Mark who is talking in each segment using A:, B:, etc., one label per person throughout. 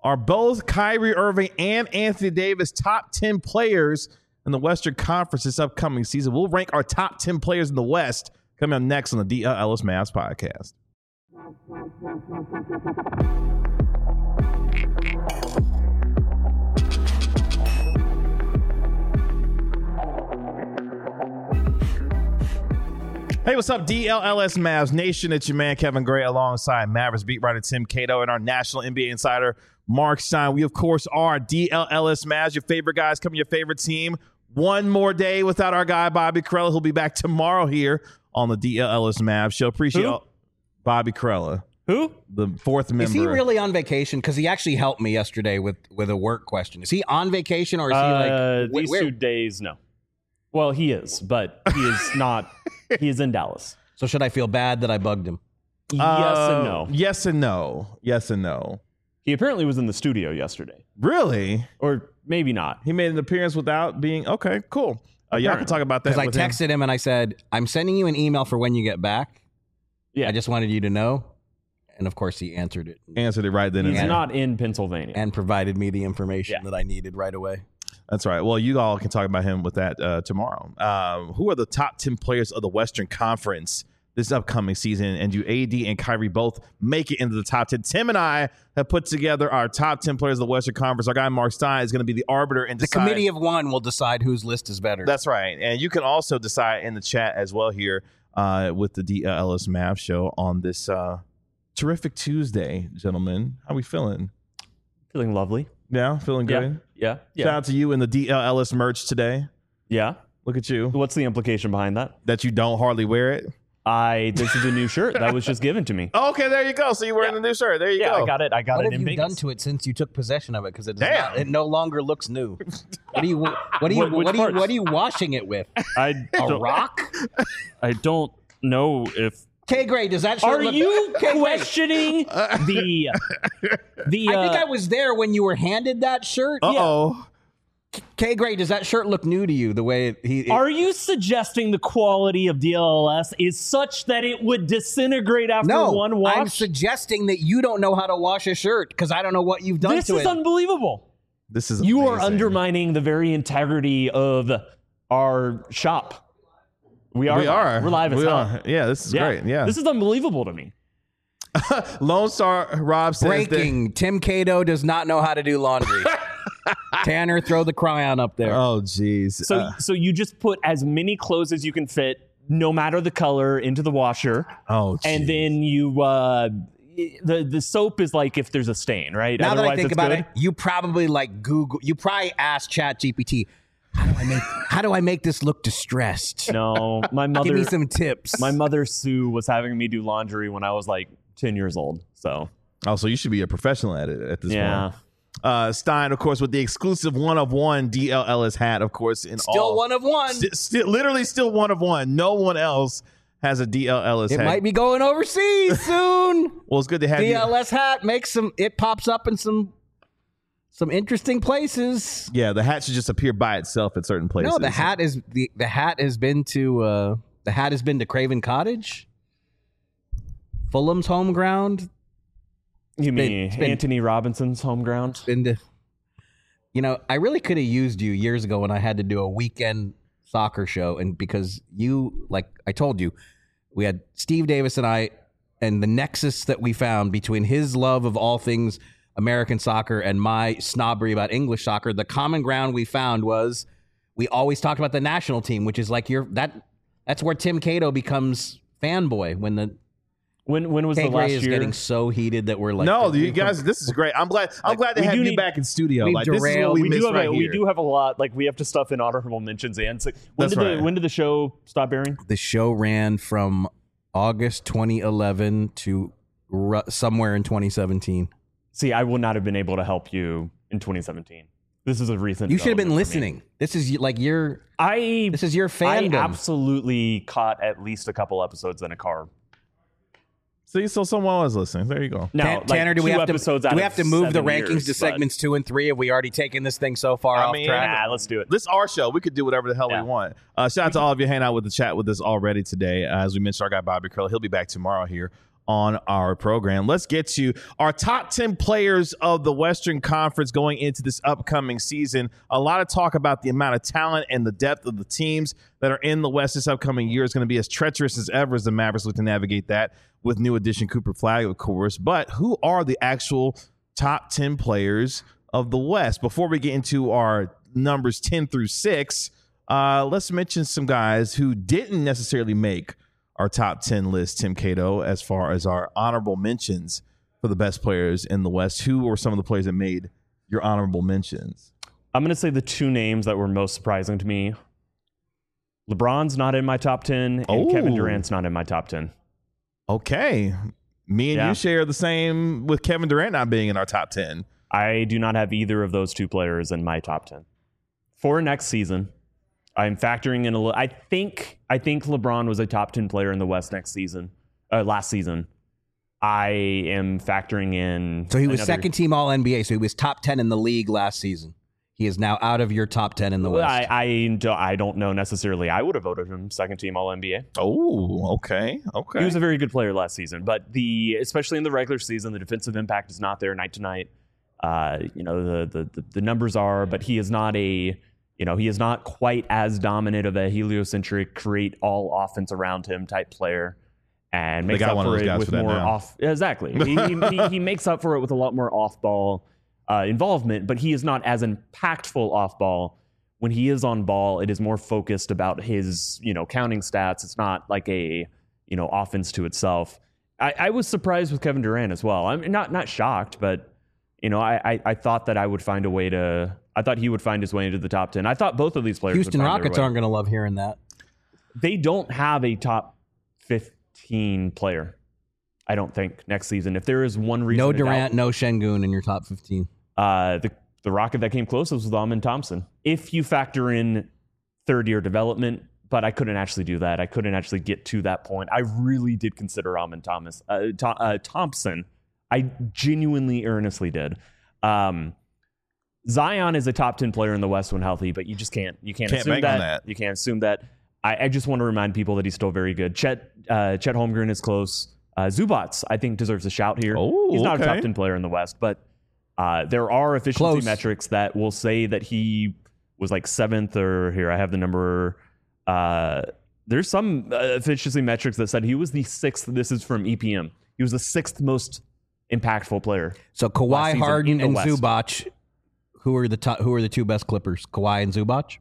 A: Are both Kyrie Irving and Anthony Davis top 10 players in the Western Conference this upcoming season? We'll rank our top 10 players in the West coming up next on the DL Ellis Mavs podcast. Hey, what's up, DLLS Mavs Nation? It's your man, Kevin Gray, alongside Mavericks beat writer Tim Cato and our national NBA insider, Mark Stein. We, of course, are DLLS Mavs, your favorite guys, coming your favorite team. One more day without our guy, Bobby Karalla. He'll be back tomorrow here on the DLLS Mavs show. Appreciate Bobby Karalla.
B: Who?
A: The fourth member.
C: Is he really on vacation? Because he actually helped me yesterday with a work question. Is he on vacation or is he like...
B: These 2 days, no. Well, he is, but he is not... He is in Dallas.
C: So should I feel bad that I bugged him?
B: Yes and no.
A: Yes and no. Yes and no.
B: He apparently was in the studio yesterday.
A: Really?
B: Or maybe not.
A: He made an appearance without being... Okay, cool. Y'all can talk about that.
C: Because I texted him and I said, I'm sending you an email for when you get back.
B: Yeah.
C: I just wanted you to know. And of course, he answered it.
A: Answered it right then and there.
B: He's not in Pennsylvania.
C: And provided me the information that I needed right away.
A: That's right. Well, you all can talk about him with that tomorrow. Who are the top 10 players of the Western Conference this upcoming season? And do AD and Kyrie both make it into the top 10? Tim and I have put together our top 10 players of the Western Conference. Our guy, Mark Stein, is going to be the arbiter and decide.
C: The committee of one will decide whose list is better.
A: That's right. And you can also decide in the chat as well here with the DLS Mavs show on this terrific Tuesday, gentlemen. How we feeling?
B: Feeling lovely.
A: Yeah, feeling good.
B: Yeah.
A: Shout out to you in the DLS merch today.
B: Yeah.
A: Look at you.
B: What's the implication behind that?
A: That you don't hardly wear it.
B: This is a new shirt that was just given to me.
A: Oh, okay, there you go. So you're wearing the new shirt. There you go.
B: I got it.
C: What
B: in
C: have you
B: Vegas.
C: done to it since you took possession of it? Because it no longer looks new. What are you washing it with? A rock?
B: I don't know if.
C: K Gray, does that shirt
B: Are
C: look...
B: you
C: K-Gray.
B: questioning the?
C: I think I was there when you were handed that shirt.
A: Uh-oh.
C: K Gray, does that shirt look new to you? The way
B: Are you suggesting the quality of DLLS is such that it would disintegrate after one wash?
C: I'm suggesting that you don't know how to wash a shirt because I don't know what you've done to it.
B: This is unbelievable.
A: This is
B: you
A: amazing.
B: are undermining the very integrity of our shop. We are. We're live as hell.
A: Yeah, this is great. Yeah.
B: This is unbelievable to me.
A: Lone Star Rob says
C: breaking. Tim Cato does not know how to do laundry. Tanner, throw the cryon up there.
A: Oh, geez.
B: So you just put as many clothes as you can fit, no matter the color, into the washer.
A: Oh, geez.
B: And then you the soap is like if there's a stain, right?
C: Now
B: Otherwise
C: that I think
B: it's
C: about
B: good.
C: it, you probably Google. You probably asked ChatGPT, how do I make this look distressed?
B: No, my mother.
C: Give me some tips.
B: My mother Sue was having me do laundry when I was like 10 years old. So
A: you should be a professional at it at this point. Stein, of course, with the exclusive one of one DLLS hat, of course,
C: still one of one.
A: Literally still one of one. No one else has a DLLS hat.
C: It might be going overseas soon.
A: Well, it's good to have
C: DLS hat makes it pops up in some interesting places.
A: Yeah, the hat should just appear by itself at certain places.
C: No, the hat has been to Craven Cottage, Fulham's home ground.
B: You mean Anthony Robinson's home ground?
C: I really could have used you years ago when I had to do a weekend soccer show, and because you, like I told you, we had Steve Davis and I, and the nexus that we found between his love of all things American soccer and my snobbery about English soccer, the common ground we found was we always talked about the national team, which is like that's where Tim Cato becomes fanboy when was the last year? Is getting so heated that we're like,
A: no, you guys, this is great. I'm glad to have you back in studio. Like, this is what we
B: do have a lot. Like, we have to stuff in honorable mentions. And so when did the show stop airing?
C: The show ran from August 2011 to somewhere in 2017.
B: See, I would not have been able to help you in 2017. This is a recent.
C: You should have been listening. This is like this is your fandom.
B: I absolutely caught at least a couple episodes in a car.
A: See, so someone was listening. There you go.
C: Now, Tanner, do we have to move the rankings to segments 2 and 3? Have we already taken this thing so far off track?
B: Nah, let's do it.
A: This is our show. We could do whatever the hell we want. Shout out to all of you hanging out with the chat with us already today. As we mentioned, our guy Bobby Karalla, he'll be back tomorrow here on our program. Let's get to our top 10 players of the Western Conference going into this upcoming season. A lot of talk about the amount of talent and the depth of the teams that are in the West this upcoming year is going to be as treacherous as ever as the Mavericks look to navigate that with new addition Cooper Flagg, of course. But who are the actual top 10 players of the West? Before we get into our numbers 10 through 6, let's mention some guys who didn't necessarily make our top 10 list, Tim Cato, as far as our honorable mentions for the best players in the West. Who were some of the players that made your honorable mentions?
B: I'm going to say the two names that were most surprising to me. LeBron's not in my top 10, and Kevin Durant's not in my top 10.
A: Okay. Me and you share the same with Kevin Durant not being in our top 10.
B: I do not have either of those two players in my top 10. For next season, I'm factoring in a little. I think LeBron was a top 10 player in the West last season. I am factoring in.
C: So he was second team All NBA. So he was top 10 in the league last season. He is now out of your top 10 in the West.
B: I don't know necessarily. I would have voted him second team All NBA.
A: Oh, okay.
B: He was a very good player last season, but especially in the regular season, the defensive impact is not there night to night. The numbers are, but he is not he is not quite as dominant of a heliocentric, create all offense around him type player, and makes up for it with more off. Exactly, he makes up for it with a lot more off ball involvement, but he is not as impactful off ball. When he is on ball, it is more focused about his counting stats. It's not like a offense to itself. I was surprised with Kevin Durant as well. I'm not shocked, but I thought that I would find a way to. I thought he would find his way into the top 10. I thought both of these players.
C: Houston Rockets aren't going to love hearing that.
B: They don't have a top 15 player, I don't think, next season. If there is one reason,
C: no Durant, no Şengün in your top 15.
B: The Rocket that came closest was Amen Thompson. If you factor in third year development, but I couldn't actually do that. I couldn't actually get to that point. I really did consider Amen Thompson. I genuinely, earnestly did. Zion is a top 10 player in the West when healthy, but you just can't assume that. You can't assume that. I just want to remind people that he's still very good. Chet Holmgren is close. Zubats, I think, deserves a shout here. He's not a top 10 player in the West, but there are efficiency metrics that will say that he was like 7th, or here I have the number. There's some efficiency metrics that said he was the 6th. This is from EPM. He was the 6th most impactful player.
C: So Kawhi, Harden, and Zubac. Who are the two best Clippers? Kawhi and Zubac?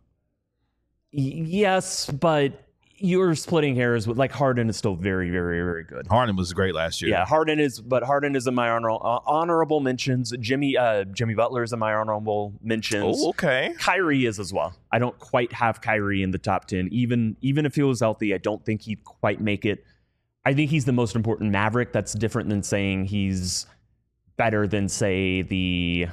B: Yes, but you're splitting hairs with Harden is still very, very, very good.
A: Harden was great last year.
B: Yeah, Harden is in my honorable mentions. Jimmy Butler is in my honorable mentions.
A: Oh, okay.
B: Kyrie is as well. I don't quite have Kyrie in the top 10. Even if he was healthy, I don't think he'd quite make it. I think he's the most important Maverick. That's different than saying he's better than, say, the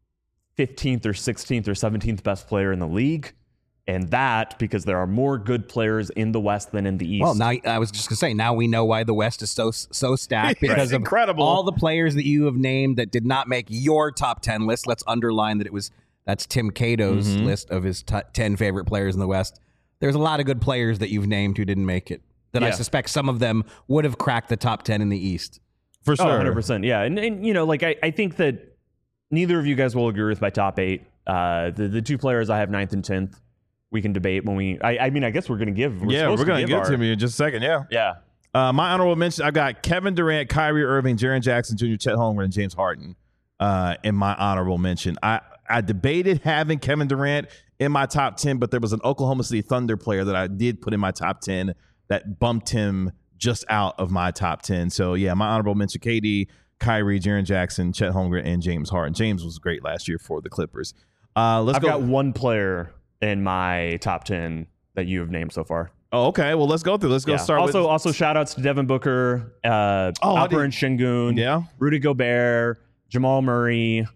B: 15th or 16th or 17th best player in the league. And that because there are more good players in the West than in the East.
C: Well, now I was just going to say, now we know why the West is so stacked because of
A: incredible.
C: All the players that you have named that did not make your top 10 list. Let's underline that that's Tim Cato's list of his 10 favorite players in the West. There's a lot of good players that you've named who didn't make it. That I suspect some of them would have cracked the top 10 in the East.
A: For sure.
B: 100%. Yeah. And I think that neither of you guys will agree with my top 8. The two players I have 9th and 10th, we can debate when we. I guess we're going to give. We're going to
A: give to me in just a second. Yeah.
B: Yeah.
A: My honorable mention, I got Kevin Durant, Kyrie Irving, Jaren Jackson Jr., Chet Holmgren, and James Harden in my honorable mention. I debated having Kevin Durant in my top 10, but there was an Oklahoma City Thunder player that I did put in my top 10 that bumped him just out of my top 10. So, yeah, my honorable mention, KD, Kyrie, Jaren Jackson, Chet Holmgren, and James Harden. James was great last year for the Clippers. I've
B: got one player in my top 10 that you have named so far.
A: Oh, okay. Well, let's go through. Let's go start with...
B: Also, shout-outs to Devin Booker, Alperen Şengün, Rudy Gobert, Jamal Murray,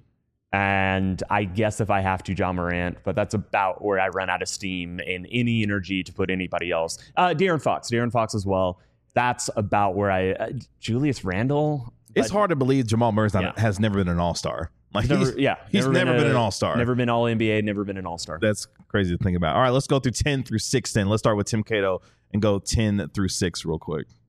B: and I guess if I have to, Ja Morant, but that's about where I run out of steam and any energy to put anybody else. De'Aaron Fox as well. That's about where Julius Randle.
A: It's hard to believe Jamal Murray has never been an all-star. He's never been an all-star.
B: Never been all-NBA, never been an all-star.
A: That's crazy to think about. All right, let's go through 10 through 6 then. Let's start with Tim Cato and go 10 through 6 real quick.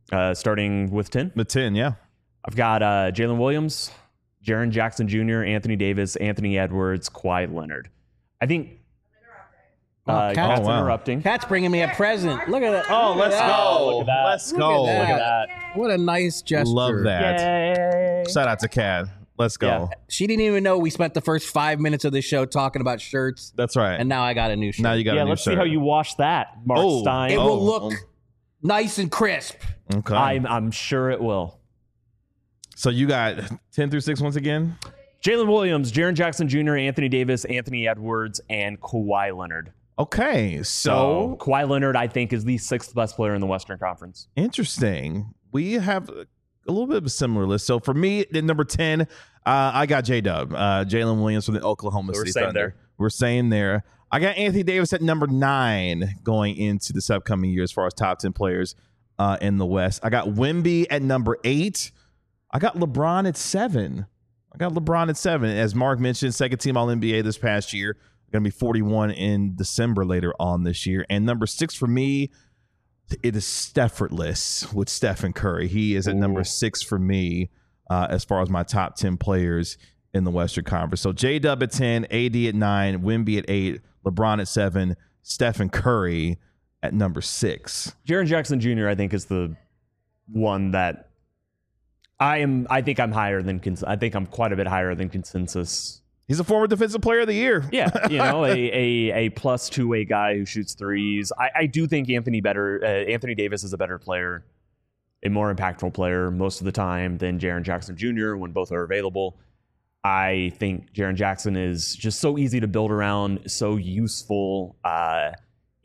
B: Starting with 10.
A: The 10, yeah.
B: I've got Jalen Williams, Jaren Jackson Jr., Anthony Davis, Anthony Edwards, Kawhi Leonard. I think Cat's interrupting.
C: Cat's bringing me a present. Look at that.
A: Oh, let's go.
B: Look at that.
A: Let's go.
C: Look at
B: Look at that.
C: What a nice gesture.
A: Love that.
B: Yay.
A: Shout out to Cat. Let's go.
B: Yeah.
C: She didn't even know we spent the first 5 minutes of the show talking about shirts,
A: That's right.
C: and now I got a new shirt.
A: now you got a new
B: Let's
A: shirt.
B: see how you wash that, Mark Stein.
C: It will look nice and crisp.
A: Okay.
B: I'm sure it will.
A: So you got 10 through 6 once again?
B: Jalen Williams, Jaren Jackson Jr., Anthony Davis, Anthony Edwards, and Kawhi Leonard.
A: Okay.
B: So Kawhi Leonard, I think, is the 6th best player in the Western Conference.
A: Interesting. We have a little bit of a similar list. So for me, at number 10, I got J-Dub, Jalen Williams from the Oklahoma City Thunder. We're saying there. I got Anthony Davis at number 9 going into this upcoming year as far as top 10 players in the West. I got Wemby at number 8. I got LeBron at 7. As Mark mentioned, second team All-NBA this past year. Going to be 41 in December later on this year. And number 6 for me, it is Steffortless with Stephen Curry. He is at number 6 for me as far as my top 10 players in the Western Conference. So J-Dub at 10, AD at 9, Wemby at 8, LeBron at 7, Stephen Curry at number 6.
B: Jaren Jackson Jr., I think, is the one that I think I'm quite a bit higher than consensus.
A: He's a former defensive player of the year.
B: Yeah, a plus 2-way guy who shoots threes. I do think Anthony Davis is a better player, a more impactful player most of the time than Jaren Jackson Jr. when both are available. I think Jaren Jackson is just so easy to build around, so useful. How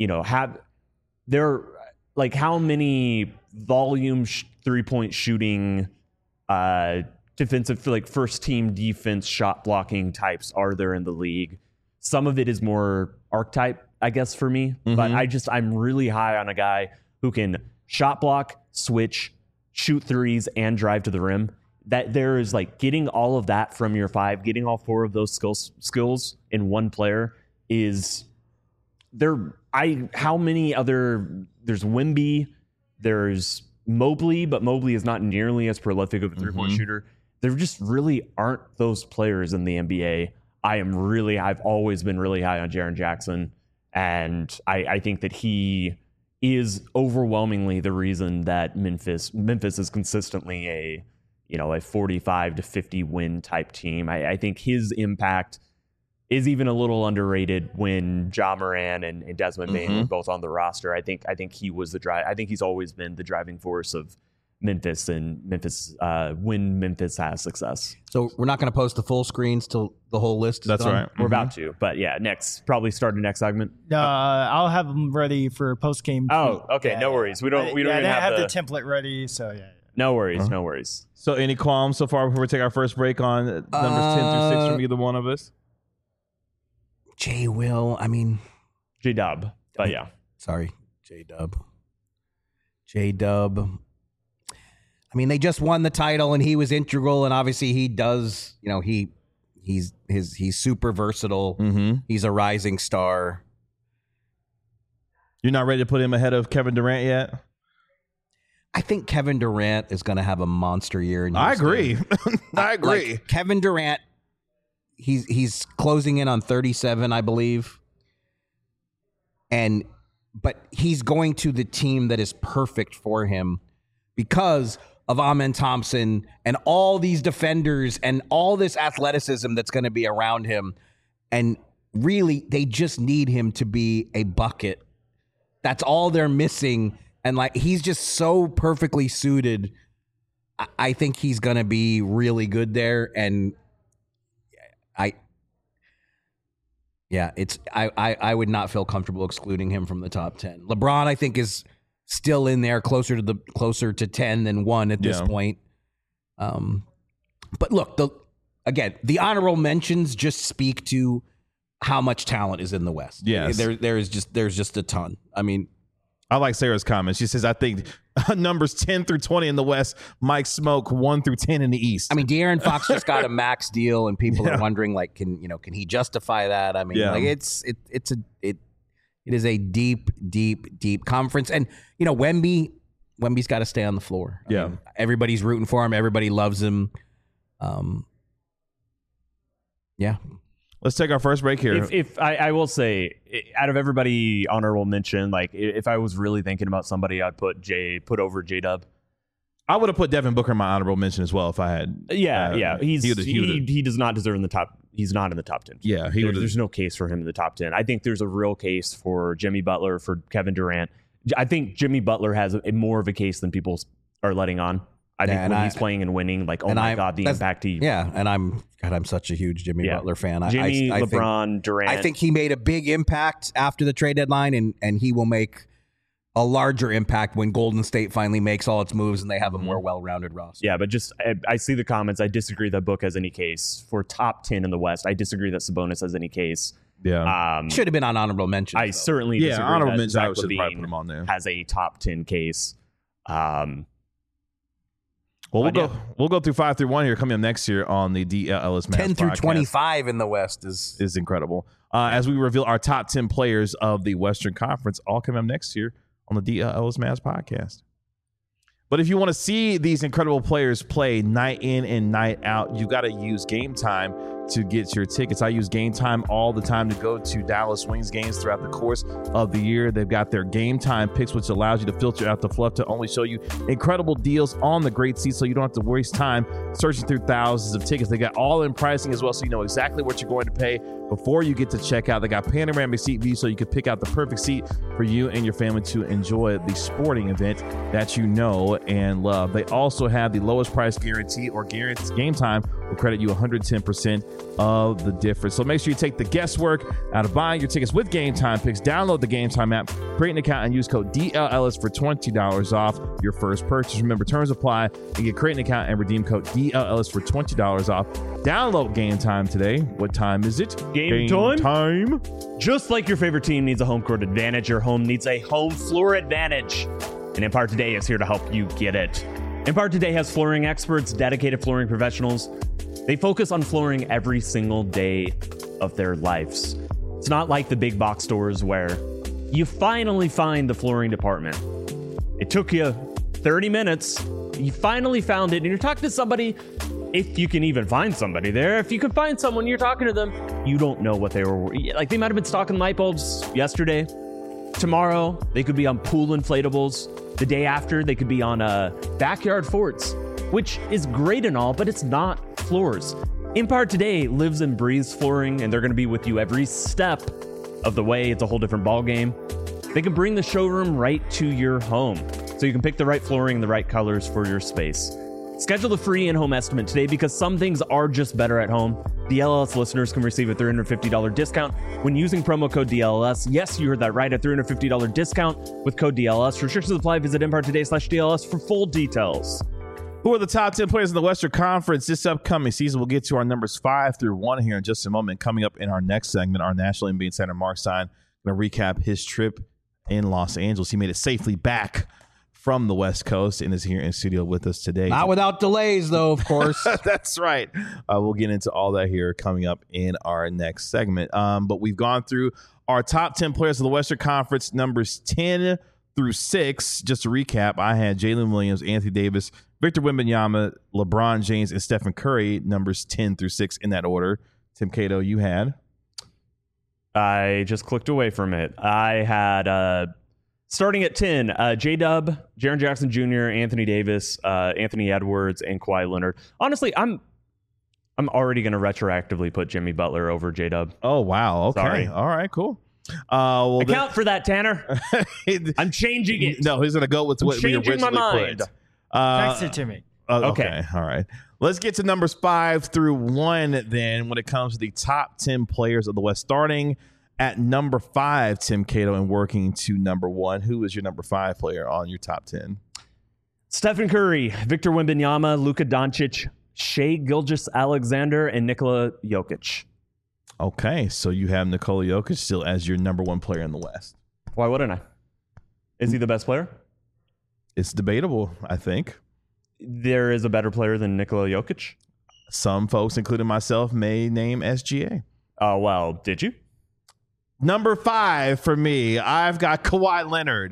B: many volume 3-point shooting defensive, first team defense shot blocking types are there in the league? Some of it is more archetype, I guess, for me. But I'm really high on a guy who can shot block, switch, shoot threes, and drive to the rim. That there is getting all of that from your 5, getting all 4 of those skills in one player is there. How many other? There's Wemby, there's Mobley, but Mobley is not nearly as prolific of a 3-point shooter. There just really aren't those players in the NBA. I've always been really high on Jaren Jackson, and I think that he is overwhelmingly the reason that Memphis is consistently a 45 to 50 win type team. I think his impact is even a little underrated when Ja Morant and Desmond Bane were both on the roster. I think he was I think he's always been the driving force of Memphis when Memphis has success.
C: So we're not going to post the full screens till the whole list is
A: That's
C: done?
A: right.
B: We're about to, but yeah, probably start the next segment.
D: I'll have them ready for post game.
B: Oh, okay, yeah, no worries. We don't even
D: have the template ready, so yeah.
B: No worries, no worries.
A: So any qualms so far before we take our first break on numbers 10 through 6 from either one of us?
C: J-Dub.
B: But yeah.
C: Sorry, J-Dub. I mean, they just won the title, and he was integral, and obviously he does. He's super versatile. He's a rising star.
A: You're not ready to put him ahead of Kevin Durant yet?
C: I think Kevin Durant is going to have a monster year. In
A: I
C: Houston.
A: agree.
C: Kevin Durant, he's closing in on 37, I believe, but he's going to the team that is perfect for him because of Amen Thompson and all these defenders and all this athleticism that's going to be around him. And really, they just need him to be a bucket. That's all they're missing. And he's just so perfectly suited. I think he's going to be really good there. And I would not feel comfortable excluding him from the top 10. LeBron, I think, is still in there closer to 10 than 1 at this point. But look, the honorable mentions just speak to how much talent is in the West.
A: Yes.
C: There's just a ton. I mean,
A: I like Sarah's comment. She says, I think numbers 10 through 20 in the West, Mike Smoke 1 through 10 in the East.
C: I mean, De'Aaron Fox just got a max deal, and people are wondering, can he justify that? I mean, it is a deep conference. And, Wemby, Wemby's got to stay on the floor. I
A: Yeah.
C: mean, everybody's rooting for him. Everybody loves him. Yeah.
A: Let's take our first break here.
B: If I will say, out of everybody honorable mention, like if I was really thinking about somebody, I'd put over J-Dub.
A: I would have put Devin Booker in my honorable mention as well if I had.
B: Yeah.
A: he
B: He does not deserve in the top. He's not in the top 10.
A: Yeah, he would've-
B: There's no case for him in the top 10. I think there's a real case for Jimmy Butler, for Kevin Durant. I think Jimmy Butler has more of a case than people are letting on. I think when he's playing and winning, like, oh my God, the impact he...
C: Yeah, and I'm such a huge Jimmy Butler fan.
B: Jimmy,
C: I
B: LeBron,
C: think,
B: Durant.
C: I think he made a big impact after the trade deadline, and he will make a larger impact when Golden State finally makes all its moves and they have a more well-rounded roster.
B: Yeah, but just I see the comments. I disagree that Book has any case for top 10 in the West. I disagree that Sabonis has any case.
A: Yeah.
C: Should have been on honorable mention.
B: I certainly disagree
A: honorable
B: that
A: mention. I
B: Zach
A: should probably
B: LaVine
A: put him on there.
B: has a top 10 case.
A: Well,
B: But
A: we'll go through 5 through 1 here coming up next year on the DLS
C: 10 through
A: podcast.
C: 25 in the West is
A: incredible. As we reveal our top 10 players of the Western Conference, all coming up next year on the DLS Mavs podcast. But if you want to see these incredible players play night in and night out, you got to use Game Time to get your tickets. I use Game Time all the time to go to Dallas Wings games throughout the course of the year. They've got their Game Time picks, which allows you to filter out the fluff to only show you incredible deals on the great seats, so you don't have to waste time searching through thousands of tickets. They got all in pricing as well, so you know exactly what you're going to pay before you get to check out. They got panoramic seat views, so you can pick out the perfect seat for you and your family to enjoy the sporting event that you know and love. They also have the lowest price guarantee, or guarantee Game Time will credit you 110% of the difference. So make sure you take the guesswork out of buying your tickets with Game Time picks. Download the Game Time app, create an account, and use code DLLS for $20 off your first purchase. Remember, terms apply. And get create an account and redeem code DLLS for $20 off. Download Game Time today. What time is it?
B: Game
A: time.
B: Just like your favorite team needs a home court advantage, your home needs a home floor advantage. And Empire Today is here to help you get it. Empire Today has flooring experts, dedicated flooring professionals. They focus on flooring every single day of their lives. It's not like the big box stores where you finally find the flooring department. It took you 30 minutes. You finally found it, and you're talking to somebody. If you can even find somebody there, if you can find someone, you're talking to them, you don't know what they were. Like, they might have been stocking light bulbs yesterday. Tomorrow, they could be on pool inflatables. The day after, they could be on backyard forts, which is great and all, but it's not floors. Empire Today lives and breathes flooring, and they're going to be with you every step of the way. It's a whole different ball game. They can bring the showroom right to your home, so you can pick the right flooring and the right colors for your space. Schedule the free in-home estimate today, because some things are just better at home. DLLS listeners can receive a $350 discount when using promo code DLLS. Yes, you heard that right, a $350 discount with code DLLS. Restrictions apply. Visit EmpireToday.com/DLLS for full details.
A: Who are the top 10 players in the Western Conference this upcoming season? We'll get to our numbers 5 through 1 here in just a moment. Coming up in our next segment, our National NBA Insider Mark Stein going to recap his trip in Los Angeles. He made it safely back from the West Coast and is here in studio with us today.
C: not without delays, though, of course.
A: That's right. We'll get into all that here coming up in our next segment. But we've gone through our top 10 players of the Western Conference, numbers 10 through 6. Just to recap, I had Jalen Williams, Anthony Davis, Victor Wembanyama, LeBron James, and Stephen Curry, numbers 10 through 6 in that order. Tim Cato, you had?
B: I just clicked away from it. I had, starting at 10, J-Dub, Jaren Jackson Jr., Anthony Davis, Anthony Edwards, and Kawhi Leonard. Honestly, I'm already going to retroactively put Jimmy Butler over J-Dub.
A: Oh, wow. Okay.
B: Sorry.
A: All right, cool. Well,
B: Account for that, Tanner. I'm changing it.
A: No, he's going to go with what we
B: changing
A: originally
B: my mind.
A: put.
D: Text it to me.
A: Okay. All right. Let's get to numbers 5 through 1 then when it comes to the top 10 players of the West. Starting at number 5, Tim Cato, and working to number 1. Who is your number 5 player on your top 10?
B: Stephen Curry, Victor Wembanyama, Luka Doncic, Shai Gilgeous-Alexander, and Nikola Jokic.
A: Okay, so you have Nikola Jokic still as your number 1 player in the West.
B: Why wouldn't I? Is he the best player?
A: It's debatable, I think.
B: There is a better player than Nikola Jokic?
A: Some folks, including myself, may name SGA.
B: Oh, well, did you?
A: Number 5 for me, I've got Kawhi Leonard.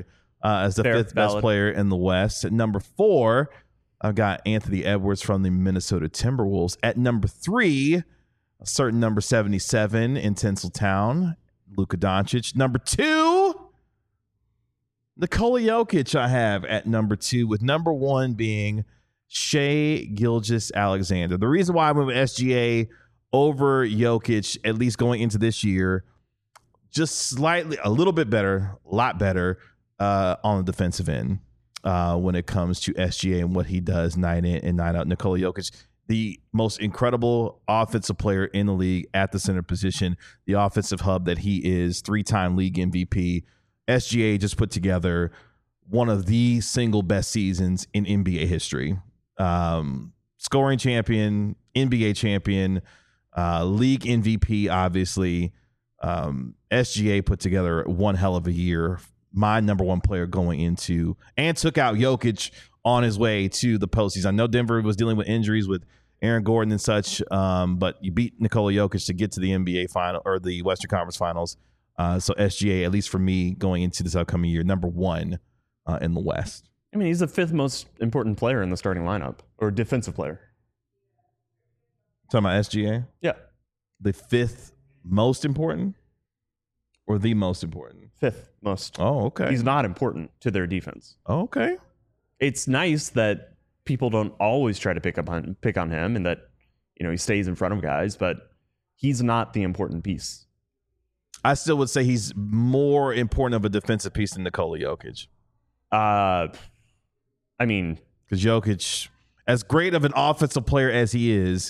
A: as the fifth best player in the West. At number 4, I've got Anthony Edwards from the Minnesota Timberwolves. At number 3, a certain number 77 in Tinseltown, Luka Doncic. Number 2, Nikola Jokic I have at number 2, with number 1 being Shai Gilgeous-Alexander. The reason why I went with SGA over Jokic, at least going into this year, just slightly, a little bit better, a lot better on the defensive end when it comes to SGA and what he does night in and night out. Nikola Jokic, the most incredible offensive player in the league at the center position, the offensive hub that he is, 3-time league MVP. SGA just put together one of the single best seasons in NBA history. Scoring champion, NBA champion, league MVP, obviously. SGA put together one hell of a year. My number 1 player going into, and took out Jokic on his way to the postseason. I know Denver was dealing with injuries with Aaron Gordon and such, but you beat Nikola Jokic to get to the NBA final or the Western Conference Finals. So SGA, at least for me, going into this upcoming year, number 1 in the West.
B: I mean, he's the 5th most important player in the starting lineup, or defensive player.
A: Talking about SGA?
B: Yeah.
A: The 5th most important or the most important?
B: 5th most.
A: Oh, okay.
B: He's not important to their defense.
A: Oh, okay.
B: It's nice that people don't always try to pick on him and that, he stays in front of guys, but he's not the important piece.
A: I still would say he's more important of a defensive piece than Nikola Jokic.
B: I mean,
A: because Jokic, as great of an offensive player as he is,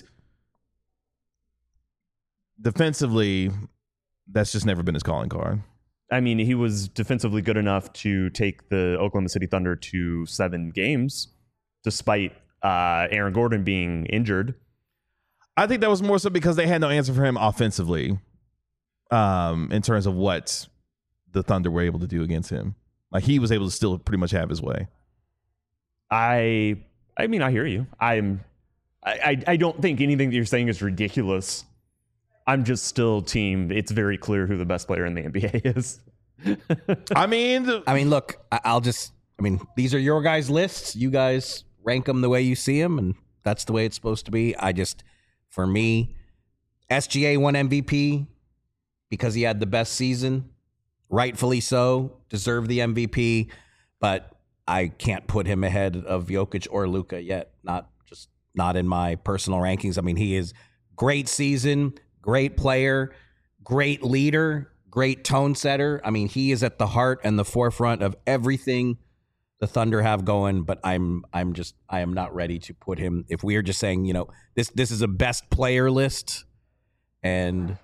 A: defensively, that's just never been his calling card.
B: I mean, he was defensively good enough to take the Oklahoma City Thunder to 7 games, despite Aaron Gordon being injured.
A: I think that was more so because they had no answer for him offensively, in terms of what the Thunder were able to do against him. Like, he was able to still pretty much have his way.
B: I mean, I hear you. I don't think anything that you're saying is ridiculous. I'm just still team. It's very clear who the best player in the NBA is.
A: I mean,
C: look, these are your guys' lists. You guys rank them the way you see them, and that's the way it's supposed to be. For me, SGA won MVP because he had the best season. Rightfully so, deserved the MVP, but I can't put him ahead of Jokic or Luka yet. Not in my personal rankings. I mean, he is great season, great player, great leader, great tone setter. I mean, he is at the heart and the forefront of everything the Thunder have going, but I am not ready to put him. If we are just saying, this is a best player list, and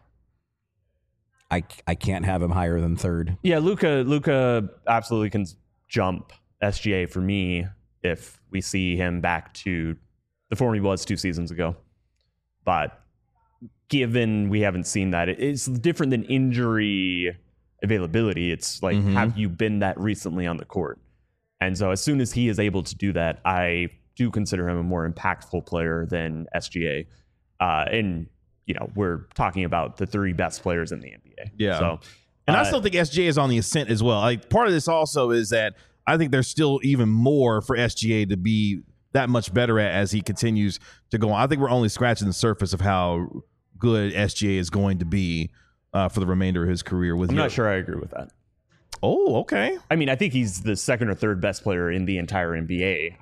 C: I can't have him higher than 3rd.
B: Yeah, Luka absolutely can jump SGA for me if we see him back to the form he was 2 seasons ago. But given we haven't seen that, it's different than injury availability. It's like, have you been that recently on the court? And so as soon as he is able to do that, I do consider him a more impactful player than SGA. And, we're talking about the 3 best players in the NBA.
A: Yeah.
B: So,
A: and I still think SGA is on the ascent as well. Like, part of this also is that I think there's still even more for SGA to be that much better at as he continues to go on. I think we're only scratching the surface of how good SGA is going to be for the remainder of his career. I'm
B: not sure I agree with that.
A: Oh, okay.
B: I mean, I think he's the 2nd or 3rd best player in the entire NBA.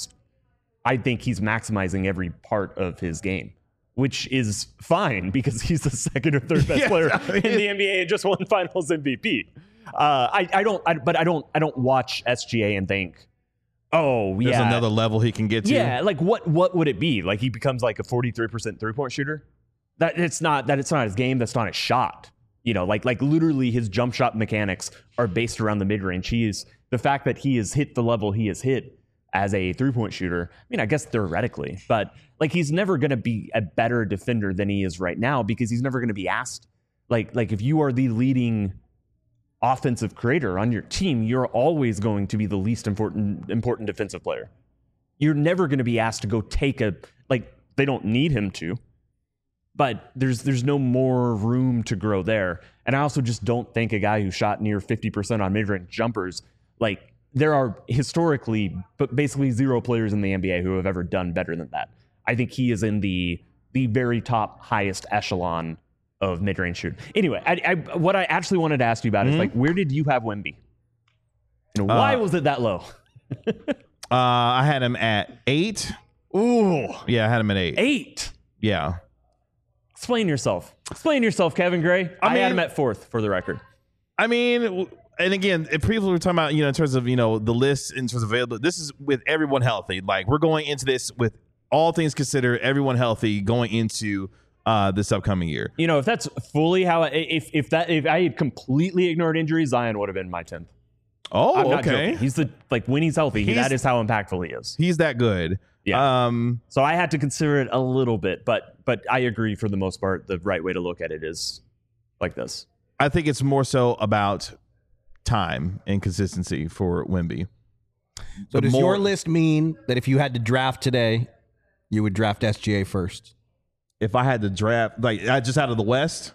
B: I think he's maximizing every part of his game, which is fine because he's the 2nd or 3rd best player in the NBA and just won Finals MVP. I don't watch SGA and think, oh, yeah,
A: there's another level he can get to.
B: Yeah, like what would it be? Like he becomes like a 43% 3-point shooter? It's not his game. That's not his shot. Like literally his jump shot mechanics are based around the mid range. The fact that he has hit the level he has hit as a 3-point shooter. I mean, I guess theoretically, but like he's never going to be a better defender than he is right now because he's never going to be asked. Like if you are the leading offensive creator on your team, you're always going to be the least important defensive player. You're never going to be asked to go take they don't need him to, but there's no more room to grow there. And I also just don't think a guy who shot near 50% on mid-range jumpers, like there are historically, but basically zero players in the NBA who have ever done better than that. I think he is in the very top, highest echelon of mid-range shooting. Anyway, what I actually wanted to ask you about is like, where did you have Wemby? And why was it that low?
A: I had him at 8.
B: Ooh,
A: Yeah, I had him at 8.
B: 8.
A: Yeah.
B: Explain yourself. Explain yourself, Kevin Gray. I had him at 4th for the record.
A: I mean, and again, if people were talking about, in terms of, the list in terms of available, this is with everyone healthy. Like, we're going into this with all things considered, everyone healthy going into this upcoming year.
B: If that's fully how, if I had completely ignored injuries, Zion would have been my 10th.
A: Oh,
B: I'm not
A: okay.
B: joking. He's when he's healthy, that is how impactful he is.
A: He's that good.
B: Yeah. So I had to consider it a little bit, but I agree for the most part, the right way to look at it is like this.
A: I think it's more so about time and consistency for Wemby.
C: So does your list mean that if you had to draft today, you would draft SGA first?
A: If I had to draft, like, just out of the West,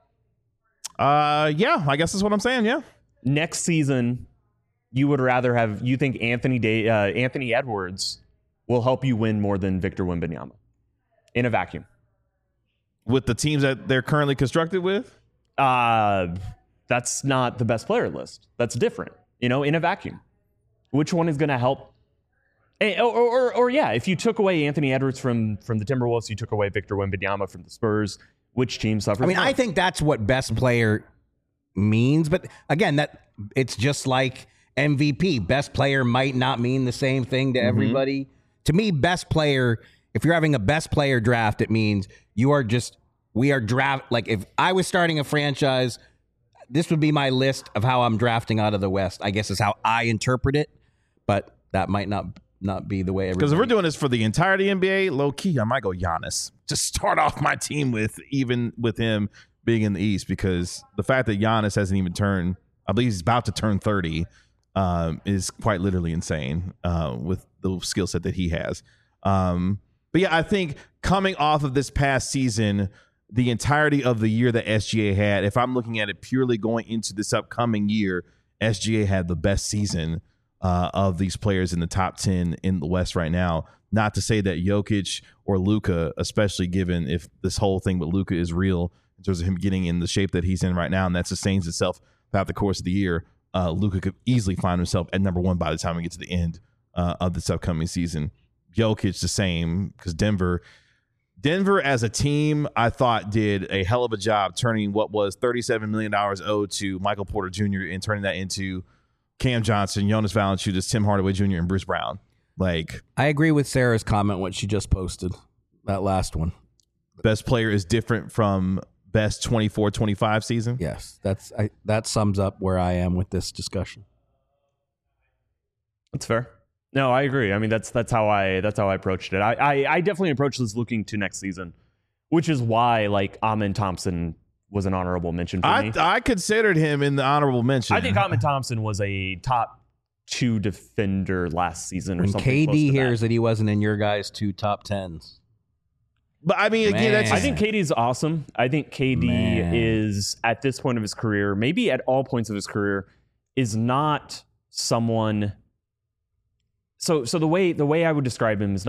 A: yeah, I guess that's what I'm saying. Yeah.
B: Next season, you would rather have, you think Anthony Edwards will help you win more than Victor Wembanyama in a vacuum
A: With the teams that they're currently constructed with?
B: That's not the best player list. That's different, in a vacuum. Which one is going to help? Or yeah, if you took away Anthony Edwards from the Timberwolves, you took away Victor Wembanyama from the Spurs, which team suffers?
C: I mean, I think that's what best player means. But again, that it's just like MVP. Best player might not mean the same thing to everybody. To me, best player, if you're having a best player draft, it means we are draft. Like, if I was starting a franchise, this would be my list of how I'm drafting out of the West, I guess is how I interpret it. But that might not be the way everybody.
A: Because if we're doing this for the entirety NBA, low key, I might go Giannis. Just start off my team with him being in the East, because the fact that Giannis hasn't even turned, I believe he's about to turn 30, is quite literally insane with the skill set that he has. But yeah, I think coming off of this past season, the entirety of the year that SGA had, if I'm looking at it purely going into this upcoming year, SGA had the best season of these players in the top 10 in the West right now. Not to say that Jokic or Luka, especially given if this whole thing with Luka is real in terms of him getting in the shape that he's in right now, and that sustains itself throughout the course of the year, Luka could easily find himself at number 1 by the time we get to the end of this upcoming season. Jokic the same, because Denver as a team, I thought did a hell of a job turning what was $37 million owed to Michael Porter Jr. and turning that into Cam Johnson, Jonas Valanciunas, Tim Hardaway Jr., and Bruce Brown. Like,
C: I agree with Sarah's comment, what she just posted, that last one.
A: Best player is different from best 24-25 season.
C: Yes, that sums up where I am with this discussion.
B: That's fair. No, I agree. I mean, that's how I approached it. I definitely approached this looking to next season, which is why like Amen Thompson was an honorable mention for me.
A: I considered him in the honorable mention.
B: I think Amen Thompson was a top 2 defender last season or
C: when
B: something.
C: KD hears that he wasn't in your guys' 2 top 10s.
A: But I mean, again, that's
B: I think KD's awesome. I think KD is at this point of his career, maybe at all points of his career, is not someone. So the way I would describe him is